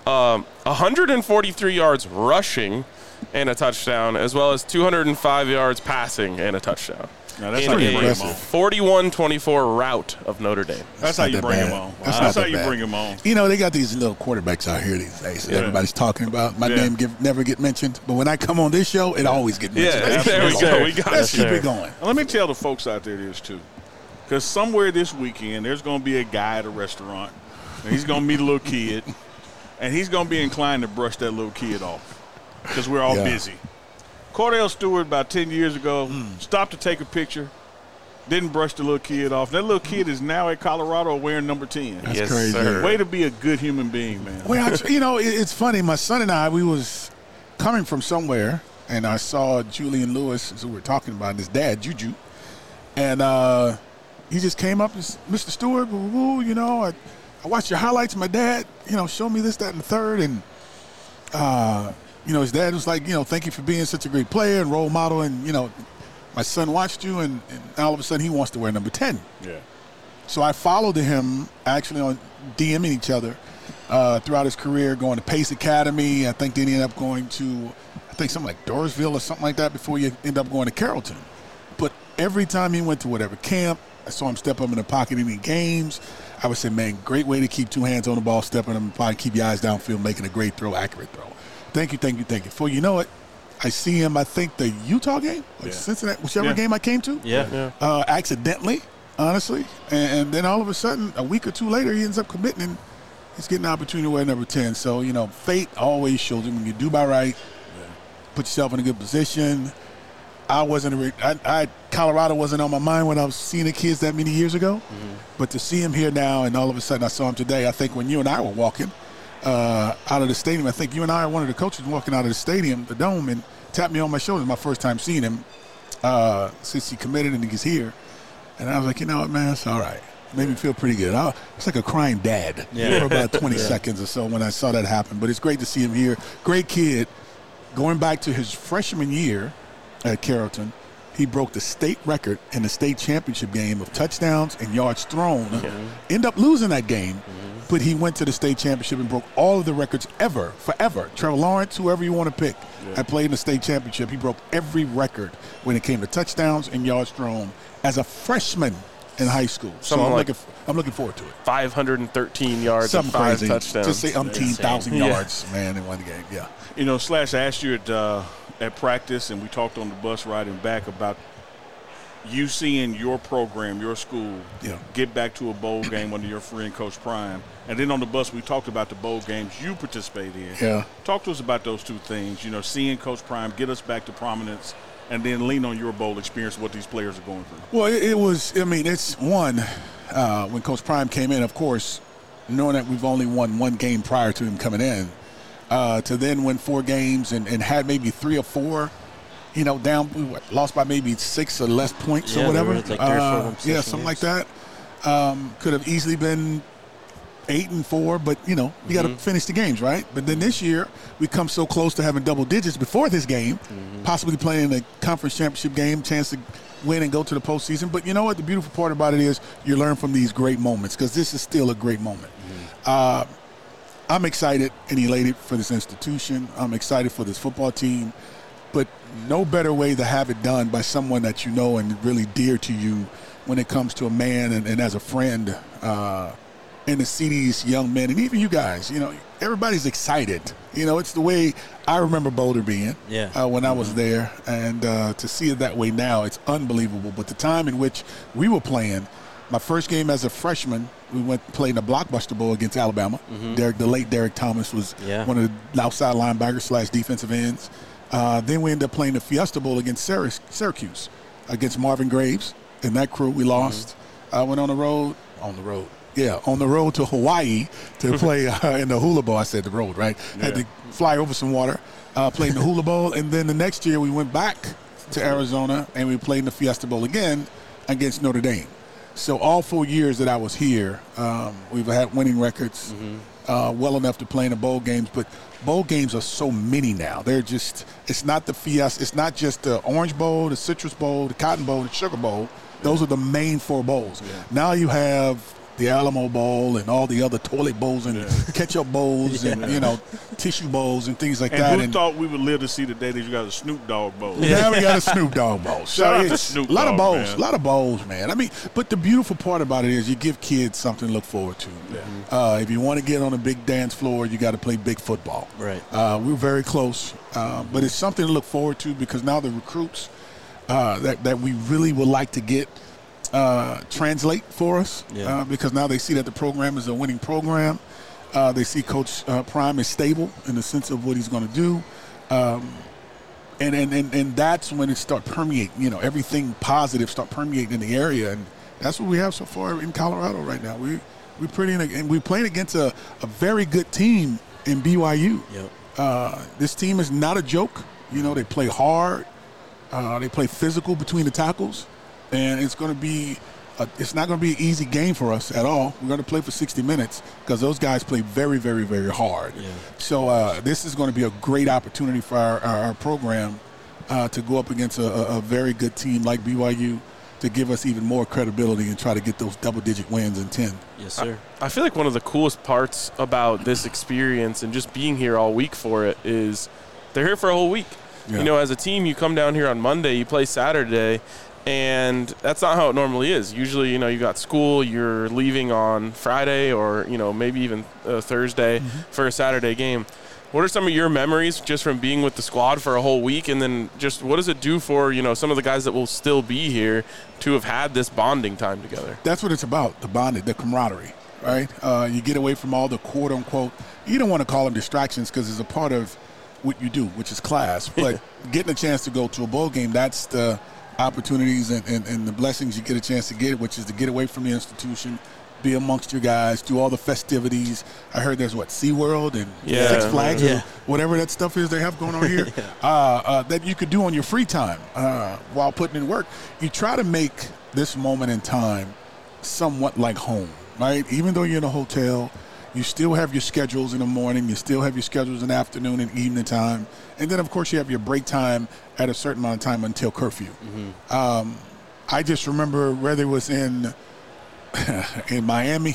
143 yards rushing and a touchdown, as well as 205 yards passing and a touchdown. Now that's in how you a bring him on. 41-24 rout of Notre Dame. That's how not you that bring him bad. on. That's That's not how that you bad. bring him on. You know, they got these little quarterbacks out here these days that Yeah. everybody's talking about. My Yeah. name never get mentioned, but when I come on this show, it always get mentioned. Yeah, there we go. We got Let's it. keep it going. And let me tell the folks out there this, too. Because somewhere this weekend, there's going to be a guy at a restaurant, and he's going to meet a little kid, and he's going to be inclined to brush that little kid off because we're all Yeah. busy. Cordell Stewart, about 10 years ago, stopped to take a picture, didn't brush the little kid off. That little kid is now at Colorado wearing number 10. That's Yes, crazy. sir. Way to be a good human being, man. Well, it's funny. My son and I, we was coming from somewhere, and I saw Julian Lewis, who we were talking about, and his dad, Juju. And he just came up, and said, Mr. Stewart, woo, I watched your highlights. My dad, showed me this, that, and the third. And, his dad was like, thank you for being such a great player and role model. And, my son watched you, and all of a sudden he wants to wear number 10. Yeah. So I followed him actually on DMing each other throughout his career, going to Pace Academy. I think then he ended up going to, something like Dorisville or something like that before he ended up going to Carrollton. But every time he went to whatever camp, I saw him step up in the pocket in games. I would say, man, great way to keep two hands on the ball, stepping in the pocket, keep your eyes downfield, making a great throw, accurate throw. Thank you. Before you know it, I see him, I think, the Utah game, or Cincinnati, whichever game I came to. Yeah. Accidentally, honestly. And then all of a sudden, a week or two later, he ends up committing and he's getting an opportunity to wear number 10. So, fate always shows you when you do by right, put yourself in a good position. Colorado wasn't on my mind when I was seeing the kids that many years ago. Mm-hmm. But to see him here now and all of a sudden I saw him today, I think when you and I were walking out of the stadium, I think you and I are one of the coaches walking out of the stadium, the dome, and tapped me on my shoulder. My first time seeing him since he committed and he's here. And I was like, you know what, man, it's all right. Made me feel pretty good. It's like a crying dad for about 20 seconds or so when I saw that happen. But it's great to see him here. Great kid. Going back to his freshman year at Carrollton, he broke the state record in the state championship game of touchdowns and yards thrown. Ended up losing that game, but he went to the state championship and broke all of the records forever. Trevor Lawrence, whoever you want to pick, had played in the state championship. He broke every record when it came to touchdowns and yards thrown as a freshman in high school. So I'm looking forward to it. 513 yards Something and 5 crazy. touchdowns. Just say 1,000 yards, man, in one game. Yeah. Slash, I asked you at practice, and we talked on the bus riding back about you seeing your program, your school, get back to a bowl game under your friend Coach Prime. And then on the bus, we talked about the bowl games you participate in. Yeah. Talk to us about those two things, seeing Coach Prime get us back to prominence and then lean on your bowl experience, what these players are going through. Well, it's one, when Coach Prime came in, of course, knowing that we've only won one game prior to him coming in, to then win 4 games and had maybe 3 or 4, down, we lost by maybe 6 or less points or whatever. Like 3 or 4 something like that. Could have easily been 8-4, but you got to finish the games, right? But then this year we come so close to having double digits before this game, possibly playing a conference championship game, chance to win and go to the postseason. But you know what? The beautiful part about it is you learn from these great moments, because this is still a great moment. I'm excited and elated for this institution. I'm excited for this football team. But no better way to have it done by someone that you know and really dear to you when it comes to a man and as a friend, and to see these young men and even you guys, everybody's excited. It's the way I remember Boulder being when I was there. And to see it that way now, it's unbelievable. But the time in which we were playing, my first game as a freshman, we went and played in the Blockbuster Bowl against Alabama. The late Derek Thomas was one of the outside linebackers / defensive ends. Then we ended up playing the Fiesta Bowl against Syracuse, against Marvin Graves and that crew. We lost. I went on the road to Hawaii to play in the Hula Bowl. I said the road, right? Had to fly over some water, played in the Hula Bowl. And then the next year we went back to Arizona and we played in the Fiesta Bowl again against Notre Dame. So all 4 years that I was here, we've had winning records, well enough to play in the bowl games. But bowl games are so many now. It's not the Fiesta. It's not just the Orange Bowl, the Citrus Bowl, the Cotton Bowl, the Sugar Bowl. Those are the main 4 bowls. Yeah. Now you have the Alamo Bowl and all the other toilet bowls and ketchup bowls and, tissue bowls and things like that. Who thought we would live to see the day that you got a Snoop Dogg Bowl? Now we got a Snoop Dogg Bowl. Shout out to Snoop Dogg, a lot of bowls, man. A lot of bowls, man. I mean, but the beautiful part about it is you give kids something to look forward to. Yeah. If you want to get on a big dance floor, you got to play big football. Right. We're very close, but it's something to look forward to, because now the recruits that we really would like to get translate for us, because now they see that the program is a winning program. They see Coach Prime is stable in the sense of what he's going to do, and that's when it start permeating. Everything positive start permeating in the area, and that's what we have so far in Colorado right now. We're playing against a very good team in BYU. Yep. This team is not a joke. They play hard. They play physical between the tackles. And it's going to be it's not going to be an easy game for us at all. We're going to play for 60 minutes because those guys play very, very, very hard. Yeah. So this is going to be a great opportunity for our program to go up against a very good team like BYU, to give us even more credibility and try to get those double-digit wins in 10. Yes, sir. I feel like one of the coolest parts about this experience and just being here all week for it is they're here for a whole week. Yeah. As a team, you come down here on Monday, you play Saturday, and that's not how it normally is. Usually, you got school, you're leaving on Friday or, maybe even Thursday for a Saturday game. What are some of your memories just from being with the squad for a whole week? And then just what does it do for, some of the guys that will still be here to have had this bonding time together? That's what it's about, the bonding, the camaraderie, right? You get away from all the quote-unquote, you don't want to call them distractions because it's a part of what you do, which is class. But getting a chance to go to a bowl game, that's the opportunities and the blessings you get a chance to get, which is to get away from the institution, be amongst your guys, do all the festivities. I heard there's SeaWorld and Six Flags or whatever that stuff is they have going on here that you could do on your free time while putting in work. You try to make this moment in time somewhat like home, right? Even though you're in a hotel, you still have your schedules in the morning, you still have your schedules in the afternoon and evening time, and then, of course, you have your break time at a certain amount of time until curfew. I just remember whether it was in Miami,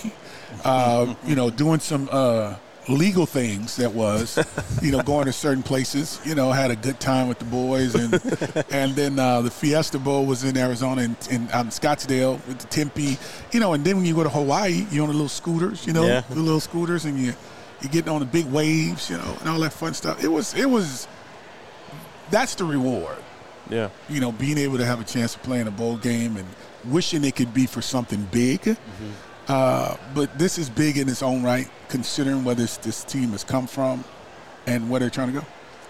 doing some legal things that was, going to certain places, had a good time with the boys. And then the Fiesta Bowl was in Arizona and out in Scottsdale with the Tempe, and then when you go to Hawaii, you're on the little scooters, the little scooters, and you're getting on the big waves, and all that fun stuff. It was that's the reward. Yeah. Being able to have a chance to play in a bowl game and wishing it could be for something big. But this is big in its own right, considering where this team has come from and where they're trying to go.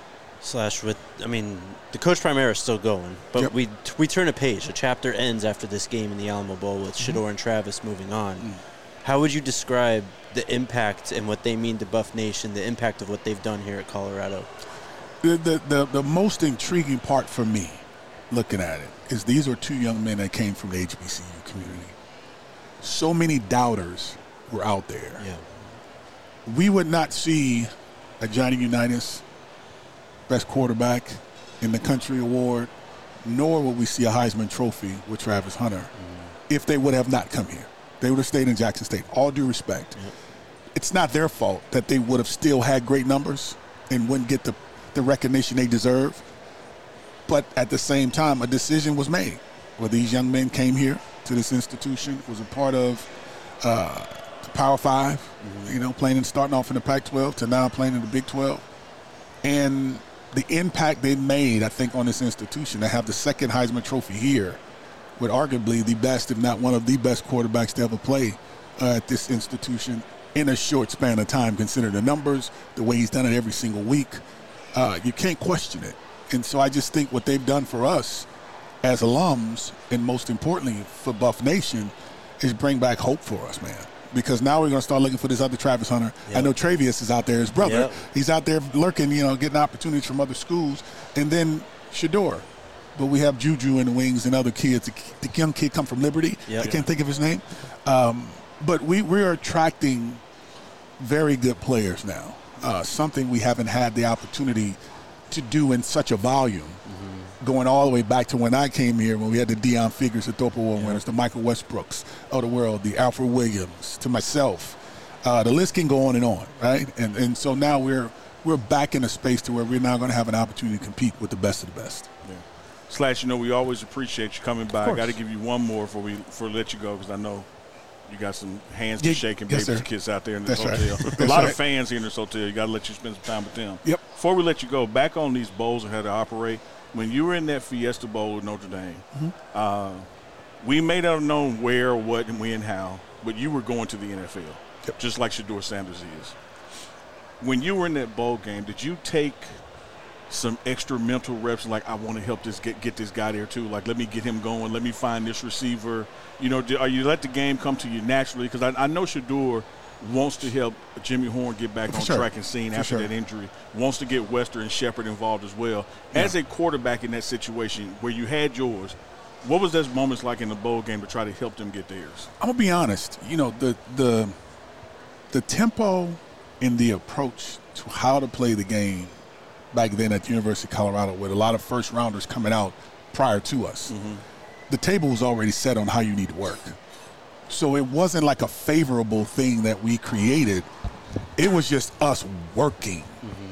The Coach Prime era is still going, but we turn a page. A chapter ends after this game in the Alamo Bowl with Shedeur and Travis moving on. How would you describe the impact and what they mean to Buff Nation, the impact of what they've done here at Colorado? The most intriguing part for me, looking at it, is these are two young men that came from the HBCU community. So many doubters were out there. Yeah. We would not see a Johnny Unitas Best Quarterback in the Country Award nor would we see a Heisman Trophy with Travis Hunter if they would have not come here. They would have stayed in Jackson State. All due respect. It's not their fault that they would have still had great numbers and wouldn't get the recognition they deserve. But at the same time, a decision was made where these young men came here to this institution, was a part of the Power 5, playing and starting off in the Pac-12 to now playing in the Big 12. And the impact they made, I think, on this institution to have the second Heisman Trophy here with arguably the best, if not one of the best quarterbacks to ever play at this institution in a short span of time, considering the numbers, the way he's done it every single week. You can't question it. And so I just think what they've done for us as alums, and most importantly for Buff Nation, is bring back hope for us, man. Because now we're going to start looking for this other Travis Hunter. Yep. I know Travius is out there, his brother. Yep. He's out there lurking, getting opportunities from other schools. And then Shedeur. But we have Juju in the wings and other kids. The young kid come from Liberty. Yep. I can't think of his name. But we are attracting very good players now, something we haven't had the opportunity to do in such a volume. Going all the way back to when I came here, when we had the Deion Figures, the Thorpe Award winners, the Michael Westbrooks of the world, the Alfred Williams, to myself. The list can go on, right? And so now we're back in a space to where we're now going to have an opportunity to compete with the best of the best. Yeah. Slash, we always appreciate you coming by. I got to give you one more before we let you go, because I know you got some hands to shake and babies and kids out there in this hotel. Right. A lot of fans here in this hotel. You got to let you spend some time with them. Yep. Before we let you go, back on these bowls and how to operate. When you were in that Fiesta Bowl with Notre Dame, we may not have known where, what, and when, how, but you were going to the NFL, just like Shedeur Sanders is. When you were in that bowl game, did you take some extra mental reps, like, I want to help get this guy there too? Like, let me get him going. Let me find this receiver. Are you let the game come to you naturally? Because I know Shedeur wants to help Jimmy Horn get back on track and scene after that injury, wants to get Wester and Shepard involved as well. As a quarterback in that situation where you had yours, what was those moments like in the bowl game to try to help them get theirs? I'm going to be honest. The tempo and the approach to how to play the game back then at the University of Colorado, with a lot of first-rounders coming out prior to us, the table was already set on how you need to work. So it wasn't like a favorable thing that we created. It was just us working,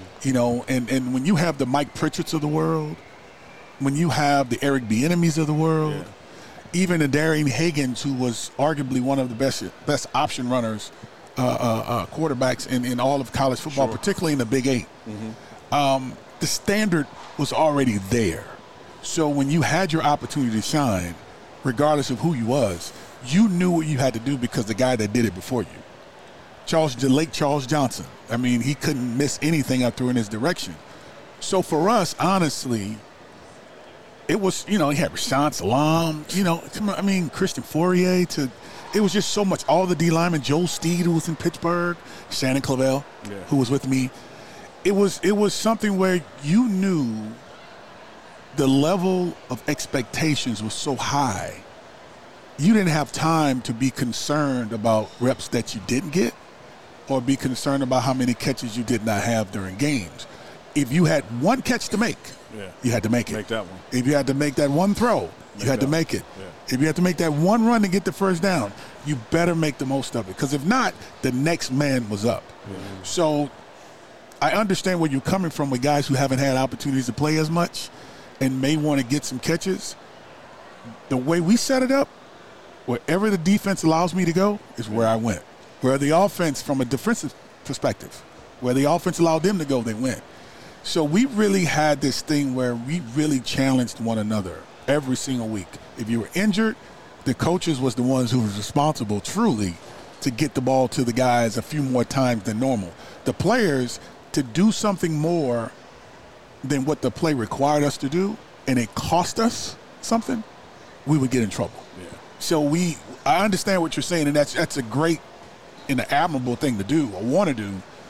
and when you have the Mike Pritchards of the world, when you have the Eric Bieniemys of the world, even the Darian Higgins, who was arguably one of the best option runners, quarterbacks in all of college football, particularly in the Big 8, the standard was already there. So when you had your opportunity to shine, regardless of who you was, you knew what you had to do because the guy that did it before you. Late Charles Johnson. I mean, he couldn't miss anything I threw in his direction. So for us, honestly, it was, he had Rashaan Salam, Christian Fourier. It was just so much. All the D linemen, Joe Steed, who was in Pittsburgh, Shannon Clavel, who was with me. It was something where you knew the level of expectations was so high. You didn't have time to be concerned about reps that you didn't get or be concerned about how many catches you did not have during games. If you had one catch to make, you had to make it. Make that one. If you had to make that one throw, you had to make it. Yeah. If you had to make that one run to get the first down, you better make the most of it. Because if not, the next man was up. So I understand where you're coming from with guys who haven't had opportunities to play as much and may want to get some catches. The way we set it up, wherever the defense allows me to go is where I went. Where the offense, from a defensive perspective, where the offense allowed them to go, they went. So we really had this thing where we really challenged one another every single week. If you were injured, the coaches was the ones who was responsible truly to get the ball to the guys a few more times than normal. The players, to do something more than what the play required us to do, and it cost us something, we would get in trouble. So I understand what you're saying, and that's a great and an admirable thing to do or want to do.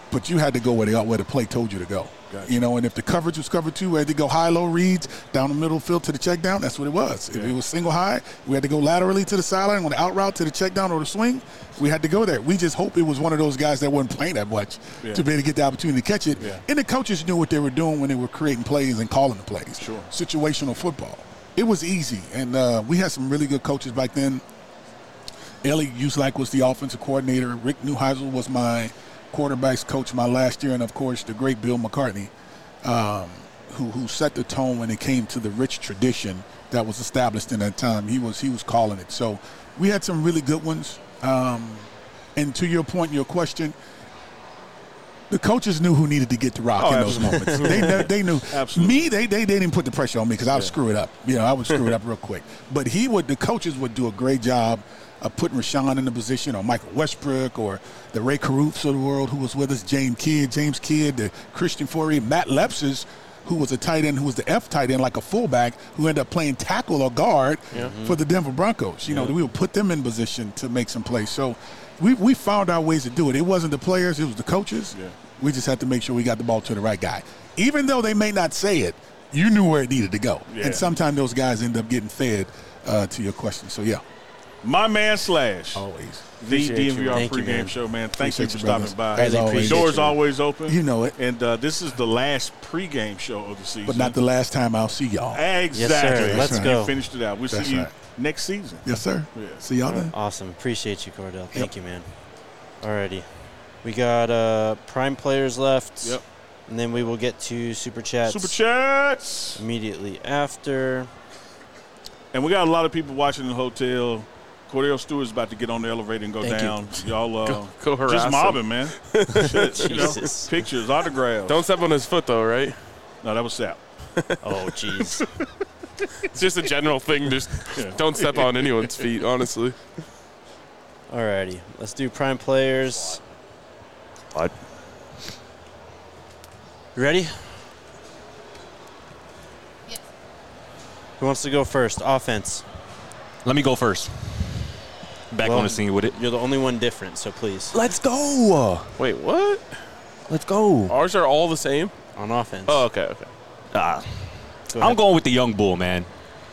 but you had to go where the play told you to go. Gotcha. You know, and if the coverage was cover 2, we had to go high-low reads down the middle field to the check down. That's what it was. If it was single high, we had to go laterally to the sideline on the out route to the check down or the swing. We had to go there. We just hope it was one of those guys that wasn't playing that much to be able to get the opportunity to catch it. Yeah. And the coaches knew what they were doing when they were creating plays and calling the plays. Sure. Situational football. It was easy, and we had some really good coaches back then. Ellie Uselak was the offensive coordinator. Rick Neuheisel was my quarterbacks coach my last year, and of course the great Bill McCartney, who set the tone when it came to the rich tradition that was established in that time. He was calling it. So we had some really good ones. And to your point, your question, the coaches knew who needed to get the rock in those moments. They knew. Absolutely. Me, they didn't put the pressure on me because I would screw it up. You know, I would screw it up real quick. But the coaches would do a great job of putting Rashawn in the position, or Michael Westbrook, or the Ray Caruths of the world who was with us, James Kidd, the Christian Faury, Matt Lepsis, who was a tight end, who was the F tight end, like a fullback, who ended up playing tackle or guard for the Denver Broncos. You know, we would put them in position to make some plays. So we found our ways to do it. It wasn't the players, it was the coaches. Yeah. We just had to make sure we got the ball to the right guy. Even though they may not say it, you knew where it needed to go. Yeah. And sometimes those guys end up getting fed to your question. So, yeah. My man Slash. Always. The DNVR pregame show, man. Thank you for stopping by. As always. Doors always open. You know it. And this is the last pregame show of the season. But not the last time I'll see y'all. Exactly. Yes, sir. Let's go. You finished it out. We'll see you next season. Yes, sir. Yeah. See y'all then. Awesome. Appreciate you, Cordell. Thank you, man. Alrighty. We got Prime players left. Yep. And then we will get to Super Chats. Super Chats. Immediately after. And we got a lot of people watching in the hotel. Cordell Stewart's about to get on the elevator and go down. Y'all go harass just mobbing, him. Man. Jesus. Pictures, autographs. Don't step on his foot, though, right? No, that was Sap. Oh, jeez. It's just a general thing. Just don't step on anyone's feet, honestly. Alrighty. Let's do Prime players. What? You ready? Yes. Who wants to go first? Offense. Let me go first. Back Well, on the scene with it. You're the only one different, so please. Let's go. Wait, what? Let's go. Ours are all the same? On offense. Oh, okay. Go I'm ahead. going with the young bull, man.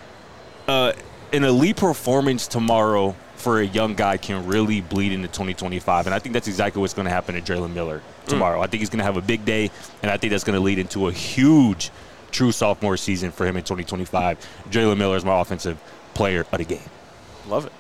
An elite performance tomorrow for a young guy can really bleed into 2025, and I think that's exactly what's going to happen to Draylen Miller tomorrow. I think he's going to have a big day, and I think that's going to lead into a huge, true sophomore season for him in 2025. Draylen Miller is my offensive player of the game. Love it.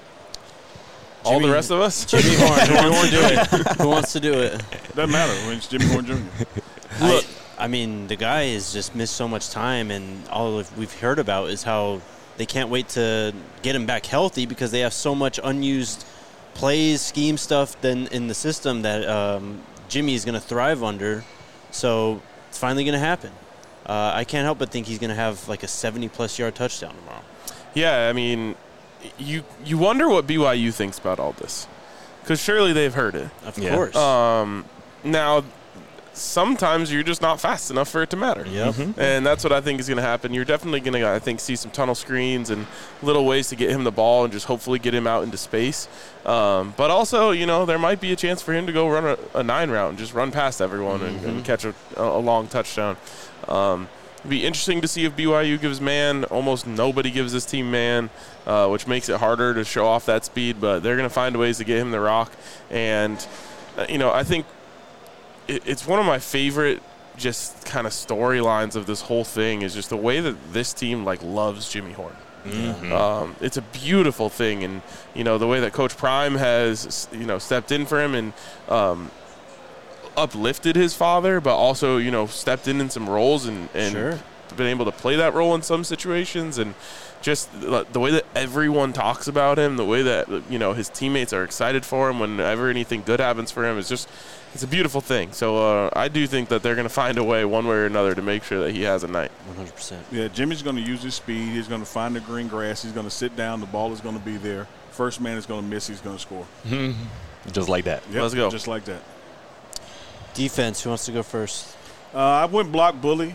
All the rest of us? Jimmy Horn. Who wants to do it? Who wants to do it? Doesn't matter when it's Jimmy Horn Jr. Look, I mean, the guy has just missed so much time, and all we've heard about is how they can't wait to get him back healthy because they have so much unused plays, scheme stuff then in the system that Jimmy is going to thrive under. So it's finally going to happen. I can't help but think he's going to have like a 70-plus yard touchdown tomorrow. Yeah, I mean, you wonder what BYU thinks about all this, because surely they've heard it. Of course. Now, sometimes you're just not fast enough for it to matter. Yep. And that's what I think is going to happen. You're definitely going to, I think, see some tunnel screens and little ways to get him the ball and just hopefully get him out into space. But also, there might be a chance for him to go run a 9 route and just run past everyone and catch a long touchdown. It'd be interesting to see if BYU gives man. Almost nobody gives this team man, which makes it harder to show off that speed. But they're going to find ways to get him the rock. And, I think it's one of my favorite just kind of storylines of this whole thing is just the way that this team, loves Jimmy Horn. It's a beautiful thing. And, the way that Coach Prime has, stepped in for him and uplifted his father, but also, stepped in some roles and Sure. been able to play that role in some situations, and just the way that everyone talks about him, the way that, his teammates are excited for him whenever anything good happens for him, it's a beautiful thing. So I do think that they're going to find a way one way or another to make sure that he has a night. 100%. Yeah, Jimmy's going to use his speed. He's going to find the green grass. He's going to sit down. The ball is going to be there. First man is going to miss. He's going to score. Just like that. Yep, Let's go. Just like that. Defense, who wants to go first? I went block bully.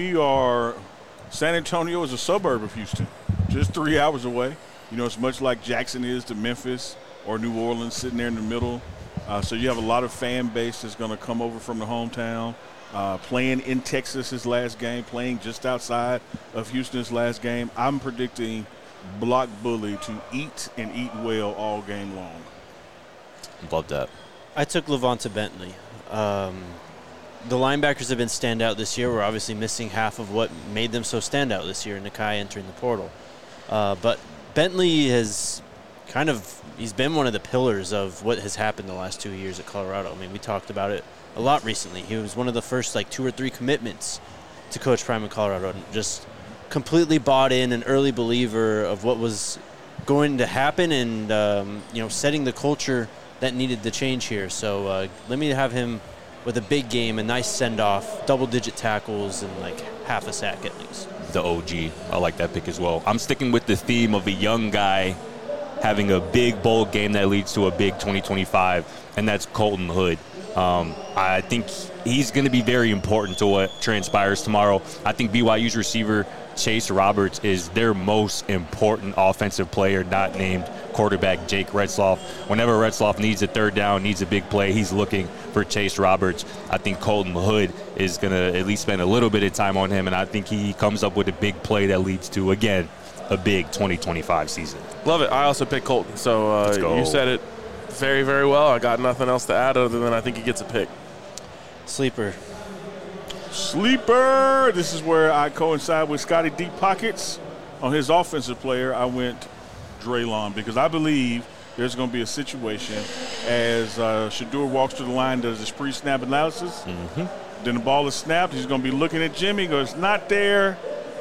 San Antonio is a suburb of Houston, just 3 hours away. It's much like Jackson is to Memphis or New Orleans, sitting there in the middle. So you have a lot of fan base that's going to come over from the hometown, playing in Texas his last game, playing just outside of Houston's last game. I'm predicting Block Bully to eat and eat well all game long. Love that. I took Levonta Bentley. The linebackers have been standout this year. We're obviously missing half of what made them so standout this year, Nakai entering the portal. But Bentley has he's been one of the pillars of what has happened the last 2 years at Colorado. I mean, we talked about it a lot recently. He was one of the first 2 or 3 commitments to Coach Prime in Colorado, and just completely bought in, an early believer of what was going to happen, and setting the culture that needed to change here. So let me have him with a big game, a nice send-off, double-digit tackles, and half a sack at least. The OG. I like that pick as well. I'm sticking with the theme of a young guy having a big bowl game that leads to a big 2025, and that's Colton Hood. I think he's going to be very important to what transpires tomorrow. I think BYU's receiver, Chase Roberts, is their most important offensive player, not named quarterback Jake Retzloff. Whenever Retzloff needs a third down, needs a big play, he's looking for Chase Roberts. I think Colton Hood is going to at least spend a little bit of time on him, and I think he comes up with a big play that leads to, again, a big 2025 season. Love it. I also picked Colton, so you said it very, very well. I got nothing else to add other than I think he gets a pick. Sleeper. This is where I coincide with Scotty Deep Pockets. On his offensive player, I went Draylon, because I believe there's going to be a situation as Shedeur walks to the line, does his pre-snap analysis. Mm-hmm. Then the ball is snapped. He's going to be looking at Jimmy, goes, not there.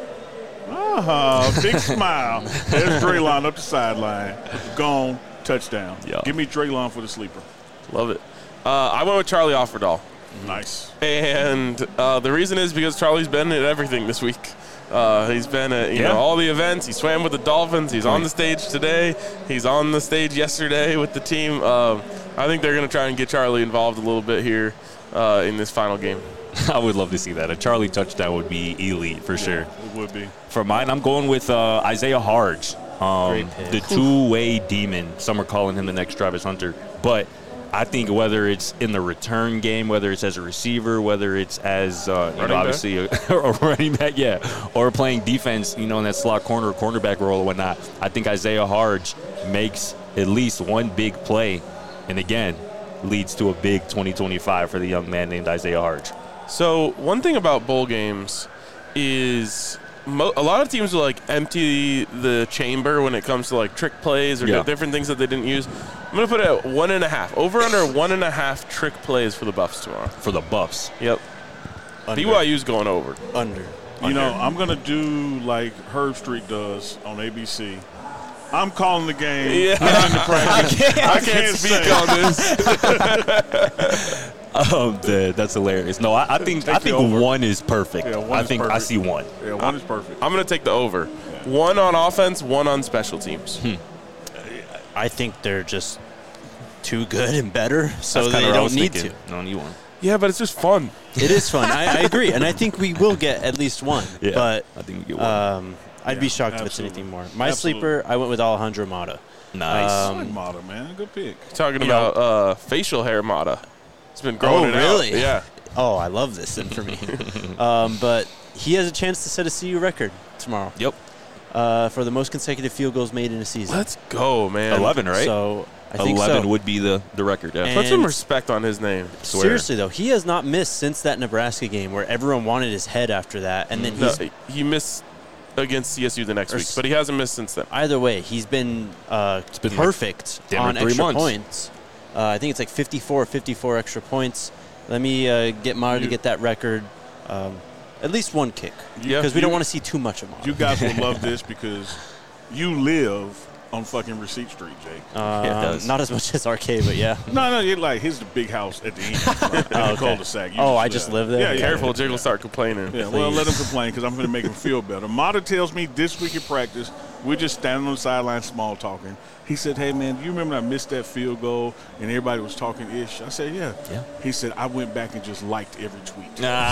Big smile. There's Draylon up the sideline. Gone. Touchdown. Yeah. Give me Draylon for the sleeper. Love it. I went with Charlie Offerdahl. Nice. And the reason is because Charlie's been at everything this week. He's been at all the events. He swam with the Dolphins. He's on the stage today. He's on the stage yesterday with the team. I think they're going to try and get Charlie involved a little bit here in this final game. I would love to see that. A Charlie touchdown would be elite for sure. It would be. For mine, I'm going with Isaiah Harge, the two-way demon. Some are calling him the next Travis Hunter. But I think whether it's in the return game, whether it's as a receiver, whether it's as obviously a running back, or playing defense, in that slot corner or cornerback role or whatnot, I think Isaiah Harge makes at least one big play, and again, leads to a big 2025 for the young man named Isaiah Harge. So one thing about bowl games is a lot of teams will empty the chamber when it comes to trick plays or different things that they didn't use. I'm going to put it at 1.5. Over under 1.5 trick plays for the Buffs tomorrow. For the Buffs? Yep. Under. BYU's going over. Under. I'm going to do like Herb Street does on ABC. I'm calling the game. Yeah. I can't speak on this. I'm dead. That's hilarious. No, I think one is perfect. Yeah, one I is think perfect. I see one. Yeah, one is perfect. I'm going to take the over. One on offense, one on special teams. I think they're just too good and better, so That's they kinda what I don't was need thinking. to. No need one. Yeah, but it's just fun. It is fun. I agree, and I think we will get at least one. Yeah, But I think we get one. I'd be shocked if it's absolutely. anything more. My sleeper, I went with Alejandro Mata. Nice. I like Mata, man. Good pick. Talking about facial hair Mata. It's been growing it out. really? Yeah. Oh, I love this then for me. But he has a chance to set a CU record tomorrow. Yep. For the most consecutive field goals made in a season. Let's go, man. 11, right? So I think 11 so. would be the record. Yeah. And Put some respect on his name. Swear. Seriously, though, he has not missed since that Nebraska game where everyone wanted his head after that. And then No, he's he missed against CSU the next Or week, but he hasn't missed since then. either way, he's been, been perfect damn on near 3 extra months. points. I think it's 54 extra points. Let me get Mata to get that record. At least one kick. Yeah. Because we don't want to see too much of Mata. You guys will love this because you live on fucking Receipt Street, Jake. Yeah, it does. Not as much as RK, but yeah. No, you're like, here's the big house at the end. Right? In the cul-de-sac. You I just live there? Yeah, Careful, Jake will start complaining. Yeah, well, let him complain because I'm going to make him feel better. Mata tells me this week at practice, we're just standing on the sideline small talking. He said, hey, man, do you remember I missed that field goal and everybody was talking ish? I said, yeah. He said, I went back and just liked every tweet. So they know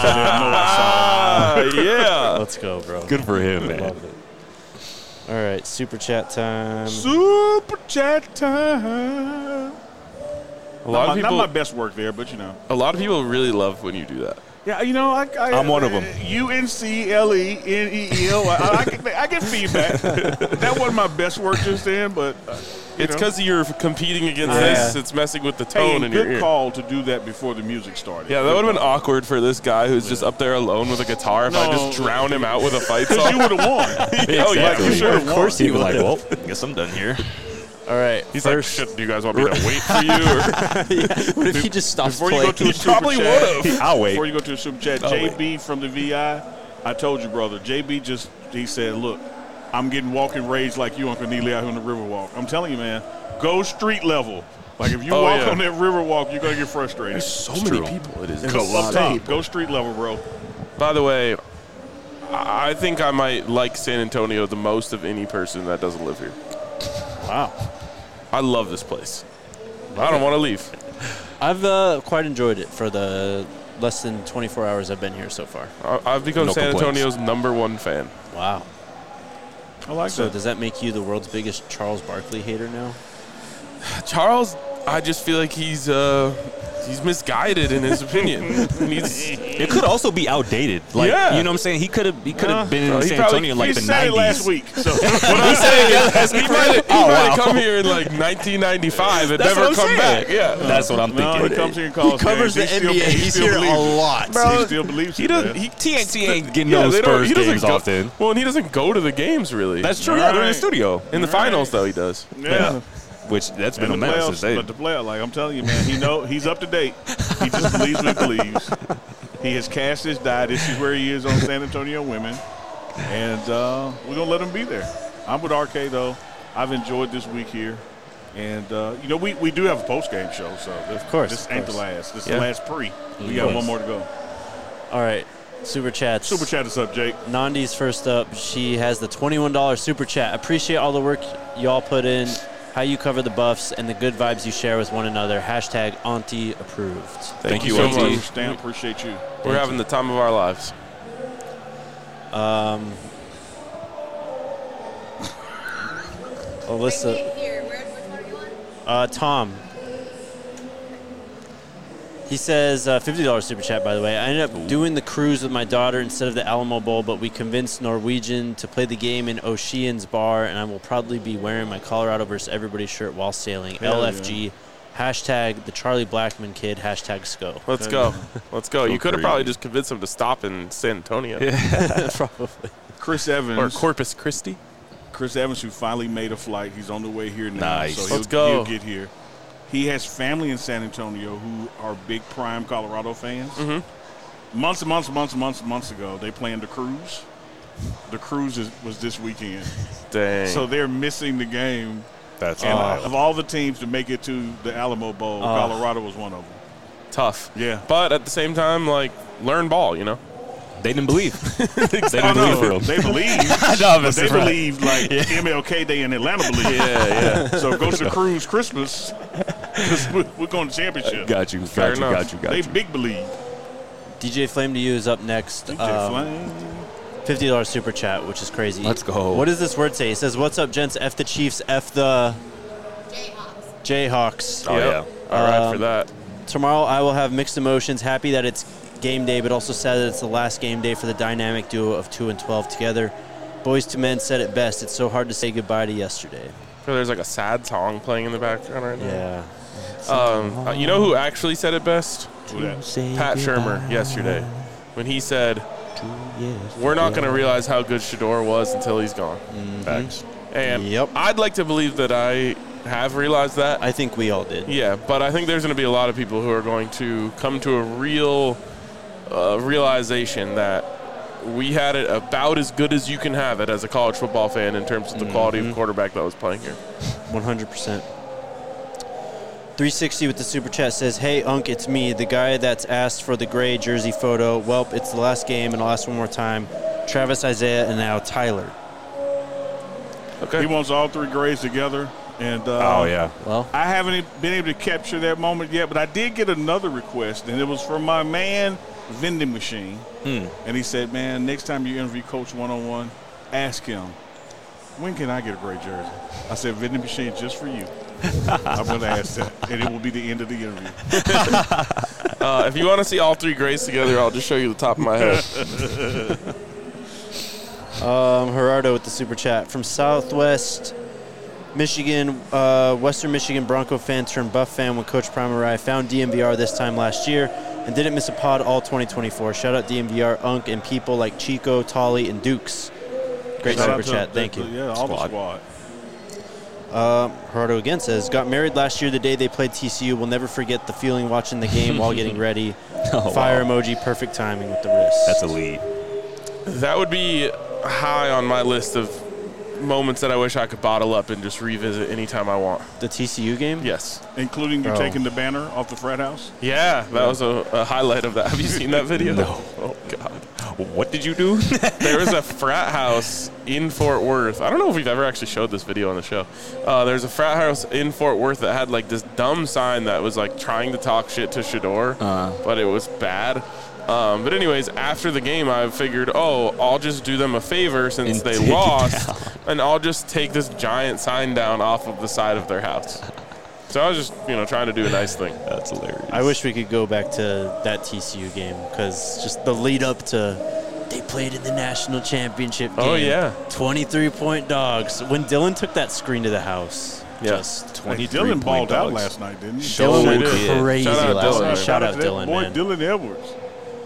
I saw it. Yeah. Let's go, bro. Good for him, man. Love it. All right, super chat time. Super chat time. Not my best work there, but A lot of people really love when you do that. Yeah, I'm one of them. UNCLENEEL. I get feedback. That wasn't my best work just then, but It's because you're competing against this. It's messing with the tone in your ear. Good call to do that before the music started. Yeah, that would have been awkward for this guy who's just up there alone with a guitar if I just drown him out with a fight song. Because you would have won. Oh, yeah, for sure. Of course he was like, well, I guess I'm done here. All right. He's like, shit, do you guys want me to wait for you? Or? What if he just stops Before playing? you go to a super probably chat, would've. I'll wait. Before you go to a super chat, JB from the VI, I told you, brother. JB he said, look, I'm getting walking rage like you, Uncle Neely, out here on the Riverwalk. I'm telling you, man, go street level. Like, if you walk on that Riverwalk, you're going to get frustrated. There's so many people. It is It's a lot of people. Go street level, bro. By the way, I think I might like San Antonio the most of any person that doesn't live here. Wow. I love this place. I don't want to leave. I've quite enjoyed it for the less than 24 hours I've been here so far. I've become No San complaints. Antonio's #1 fan. Wow. I like So that. does that make you the world's biggest Charles Barkley hater now? Charles, I just feel like he's misguided in his opinion. It could also be outdated. Like, Yeah. you know what I'm saying? He could have been in he San probably- Antonio in like He the said 90s. it last week. So What I'm saying is, he might have come here in like 1995 and That's never what I'm come saying. back. Yeah. That's what I'm no, thinking. he comes here and calls Covers the games. He still- NBA. he He's still here a believes it. lot. He still believes He it, doesn't. man. TNT ain't getting Yeah, those they don't- Spurs he doesn't games go- often. Well, and he doesn't go to the games really. That's true. Yeah, they're in the Right. studio. in the finals though. He does. Yeah. Which that's been And a the mess playoffs, since then. but the playoff, like I'm telling you, man, he's up to date. He just believes what he believes. He has cast his die. This is where he is on San Antonio women, and we're gonna let him be there. I'm with RK though. I've enjoyed this week here, and we do have a post game show, so of course, this of ain't course. the last. This is Yeah. the last pre. We got one more to go. All right. Super chats. Super chat us up, Jake. Nandi's first up. She has the $21 super chat. Appreciate all the work y'all put in, how you cover the Buffs, and the good vibes you share with one another. Hashtag Auntie approved. Thank you so so much, much. Stan. Appreciate you. We're having the time of our lives. Alyssa. Here, which one are you on? Tom. He says, $50 super chat, by the way. I ended up doing the cruise with my daughter instead of the Alamo Bowl, but we convinced Norwegian to play the game in Ocean's Bar, and I will probably be wearing my Colorado versus everybody shirt while sailing. Hell LFG. Hashtag the Charlie Blackman kid. Hashtag SCO. Let's go. Let's go. You could have crazy. probably just convinced him to stop in San Antonio Probably. Chris or Evans. Corpus Christi. Chris Evans, who finally made a flight. He's on the way here now. Nice. So Let's go. He'll get here. He has family in San Antonio who are big prime Colorado fans. Mm-hmm. Months ago, they planned the cruise. The cruise was this weekend. Dang. So they're missing the game. That's And wild. of all the teams to make it to the Alamo Bowl, Colorado was one of them. tough. Yeah. But at the same time, like, learn ball, you know? They didn't believe. They didn't Oh, believe no, for they him. believe. No, But they right. believe like MLK Day in Atlanta believe. Yeah. So go to the cruise Christmas. 'Cause we're going to championship. Got you. Fair Got enough. you. Got They you. big believe. DJ Flame to you is up next. DJ Flame. $50 super chat, which is crazy. Let's go. What does this word say? It says, "What's up, gents? F the Chiefs, F the Jayhawks. Jayhawks." Oh, Yep. All right for that. Tomorrow I will have mixed emotions. Happy that it's game day, but also sad that it's the last game day for the dynamic duo of 2 and 12 together. Boys to Men said it best. It's so hard to say goodbye to yesterday. There's like a sad song playing in the background right now. Yeah. You know who actually said it best? Who that? Pat Shermer yesterday when he said, we're not going to realize how good Shador was until he's gone. Facts. And Yep. I'd like to believe that I have realized that. I think we all did. Yeah, but I think there's going to be a lot of people who are going to come to a real realization that we had it about as good as you can have it as a college football fan in terms of the quality of quarterback that was playing here. 100%. 360 with the super chat says, "Hey, Unk, it's me, the guy that's asked for the gray jersey photo. Welp, it's the last game, and I'll ask one more time. Travis, Isaiah, and now Tyler." Okay. He wants all three grades together. And Oh, yeah. Well, I haven't been able to capture that moment yet, but I did get another request, and it was from my man, Vending Machine. And he said, man, next time you interview Coach one-on-one, ask him, when can I get a great jersey? I said, Vending Machine, just for you. I'm going to ask that, and it will be the end of the interview. If you want to see all three greats together, I'll just show you the top of my head. Gerardo with the super chat from Southwest Michigan, Western Michigan Bronco fan turned Buff fan when Coach Primarai found DMVR this time last year and didn't miss a pod all 2024. Shout out DMVR, Unk, and people like Chico, Tolly, and Dukes. Great super chat. Thank you. Yeah, all the squad. Gerardo again says, got married last year the day they played TCU. We'll never forget the feeling watching the game while getting ready. Fire emoji, perfect timing with the wrist. That's elite. That would be high on my list of moments that I wish I could bottle up and just revisit anytime I want. The TCU game? Yes. Including you taking the banner off the frat house? Yeah, that was a highlight of that. Have you seen that video? No. Oh, God. What did you do? There was a frat house in Fort Worth. I don't know if we've ever actually showed this video on the show. There's a frat house in Fort Worth that had like this dumb sign that was like trying to talk shit to Shador, but it was bad. But anyways, after the game, I figured, I'll just do them a favor since they lost, and I'll just take this giant sign down off of the side of their house. So I was just, trying to do a nice thing. That's hilarious. I wish we could go back to that TCU game because just the lead up to they played in the national championship game. Oh, yeah. 23-point dogs. When Dylan took that screen to the house, just 23 Dylan balled out dogs. last night, didn't he? Dylan went did. crazy Shout out last Dylan, night. man. Shout out to that Dylan, boy, man. Dylan Edwards.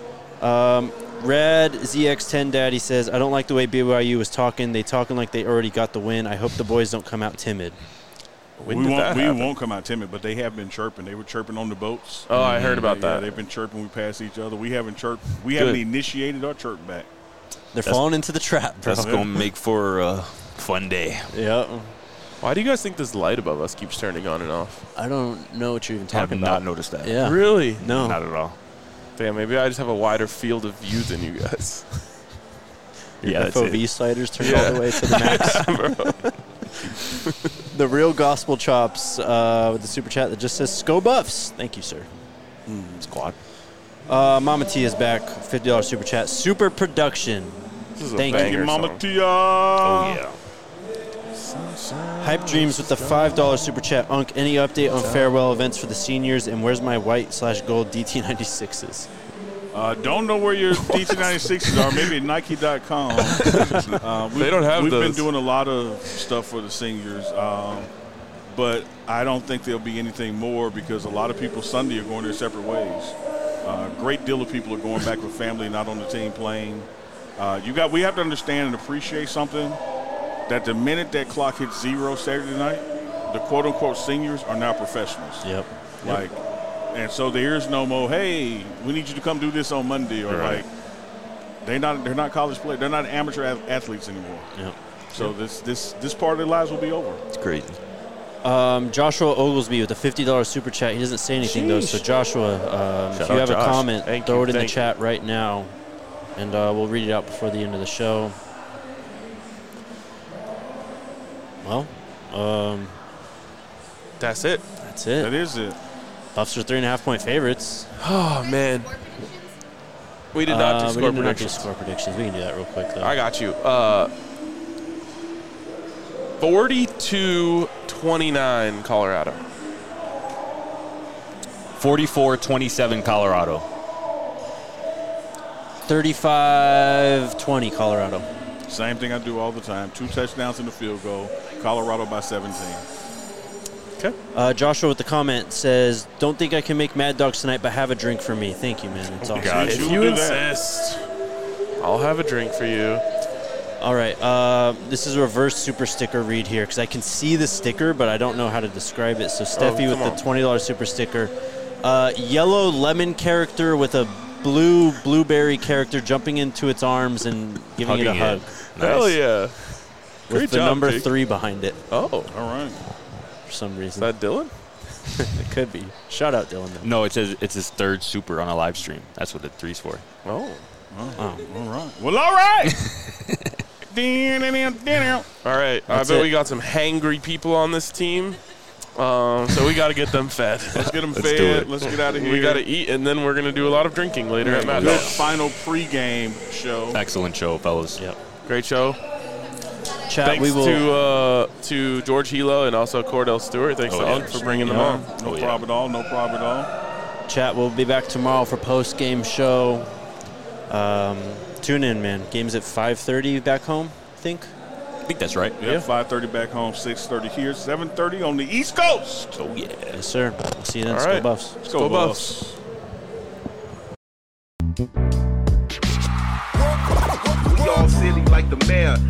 Red ZX10 Daddy says, I don't like the way BYU was talking. They talking like they already got the win. I hope the boys don't come out timid. We won't come out timid, but they have been chirping. They were chirping on the boats. Oh, I heard about Yeah, that. they've been chirping. We pass each other. We haven't chirped. We haven't initiated our chirp back. They're falling into the trap, bro. That's going to make for a fun day. Yeah. Why do you guys think this light above us keeps turning on and off? I don't know what you're even I have talking not about. noticed that. Yeah. Really? No. Not at all. Damn, maybe I just have a wider field of view than you guys. Yeah, that's FOV it. sliders turn all the way to the max. The real gospel chops with the super chat that just says "Sco Buffs." Thank you, sir. Squad. Mama T is back. $50 super chat. Super production. This is a Thank you. banger Mama song. Tia. Oh, yeah. Hype Dreams with the $5 super chat. Unk, any update on farewell events for the seniors? And where's my white/gold DT96s? Don't know where your DT96s are. Maybe at Nike.com. They don't have We've those. been doing a lot of stuff for the seniors, but I don't think there'll be anything more because a lot of people Sunday are going their separate ways. A great deal of people are going back with family, not on the team playing. We have to understand and appreciate something, that the minute that clock hits 0 Saturday night, the quote-unquote seniors are now professionals. Yep. And so there is no more, hey, we need you to come do this on Monday, or Right. they're not college players, they're not amateur athletes anymore. Yep. So this part of their lives will be over. It's crazy. Joshua Oglesby with a $50 super chat. He doesn't say anything though. So Joshua, if Shout you out have a Josh. comment, Thank throw you, it in the thank you. chat right now, and we'll read it out before the end of the show. Well, That's it. that's That it. is it. Buffs are 3.5-point favorites. Oh, man. We did not do We score did not do predictions. score predictions. We can do that real quick though. I got you. 42-29 Colorado. 44-27 Colorado. 35-20 Colorado. Same thing I do all the time. 2 touchdowns and a field goal. Colorado by 17. Okay. Joshua with the comment says, "Don't think I can make Mad Dogs tonight, but have a drink for me." Thank you, man. It's awesome. God. If You'll you do that. insist, I'll have a drink for you. All right, this is a reverse super sticker read here because I can see the sticker, but I don't know how to describe it. So Steffi with come the on. $20 super sticker, yellow lemon character with a blue blueberry character jumping into its arms and giving it a Hugging hug it. Hell yeah. with Great the job, number Jake. 3 behind it Oh, All right. for some is reason. that Dylan? It could be. Shout out Dylan. Though. No, it says it's his third super on a live stream. That's what the 3's for. Oh. All right. Well, all right. All right. That's I bet it. we got some hangry people on this team. So we got to get them fed. Let's get them Let's do fed. it. Let's get out of here. We got to eat, and then we're going to do a lot of drinking later at Mad Good Dogs. final pregame show. Excellent show, fellas. Yep. Great show. Chat, Thanks we will. to George Hilo and also Cordell Stewart. Thanks to Unc for bringing them on. No problem at all. No problem at all. Chat, we'll be back tomorrow for post-game show. Tune in, man. Game's at 5:30 back home, I think. I think that's right. Yeah, 5:30 back home, 6:30 here, 7:30 on the East Coast. Oh, yeah. Yes, sir. We'll see you then. All Let's right. go Buffs. Let's go, Buffs. We all silly like the mayor.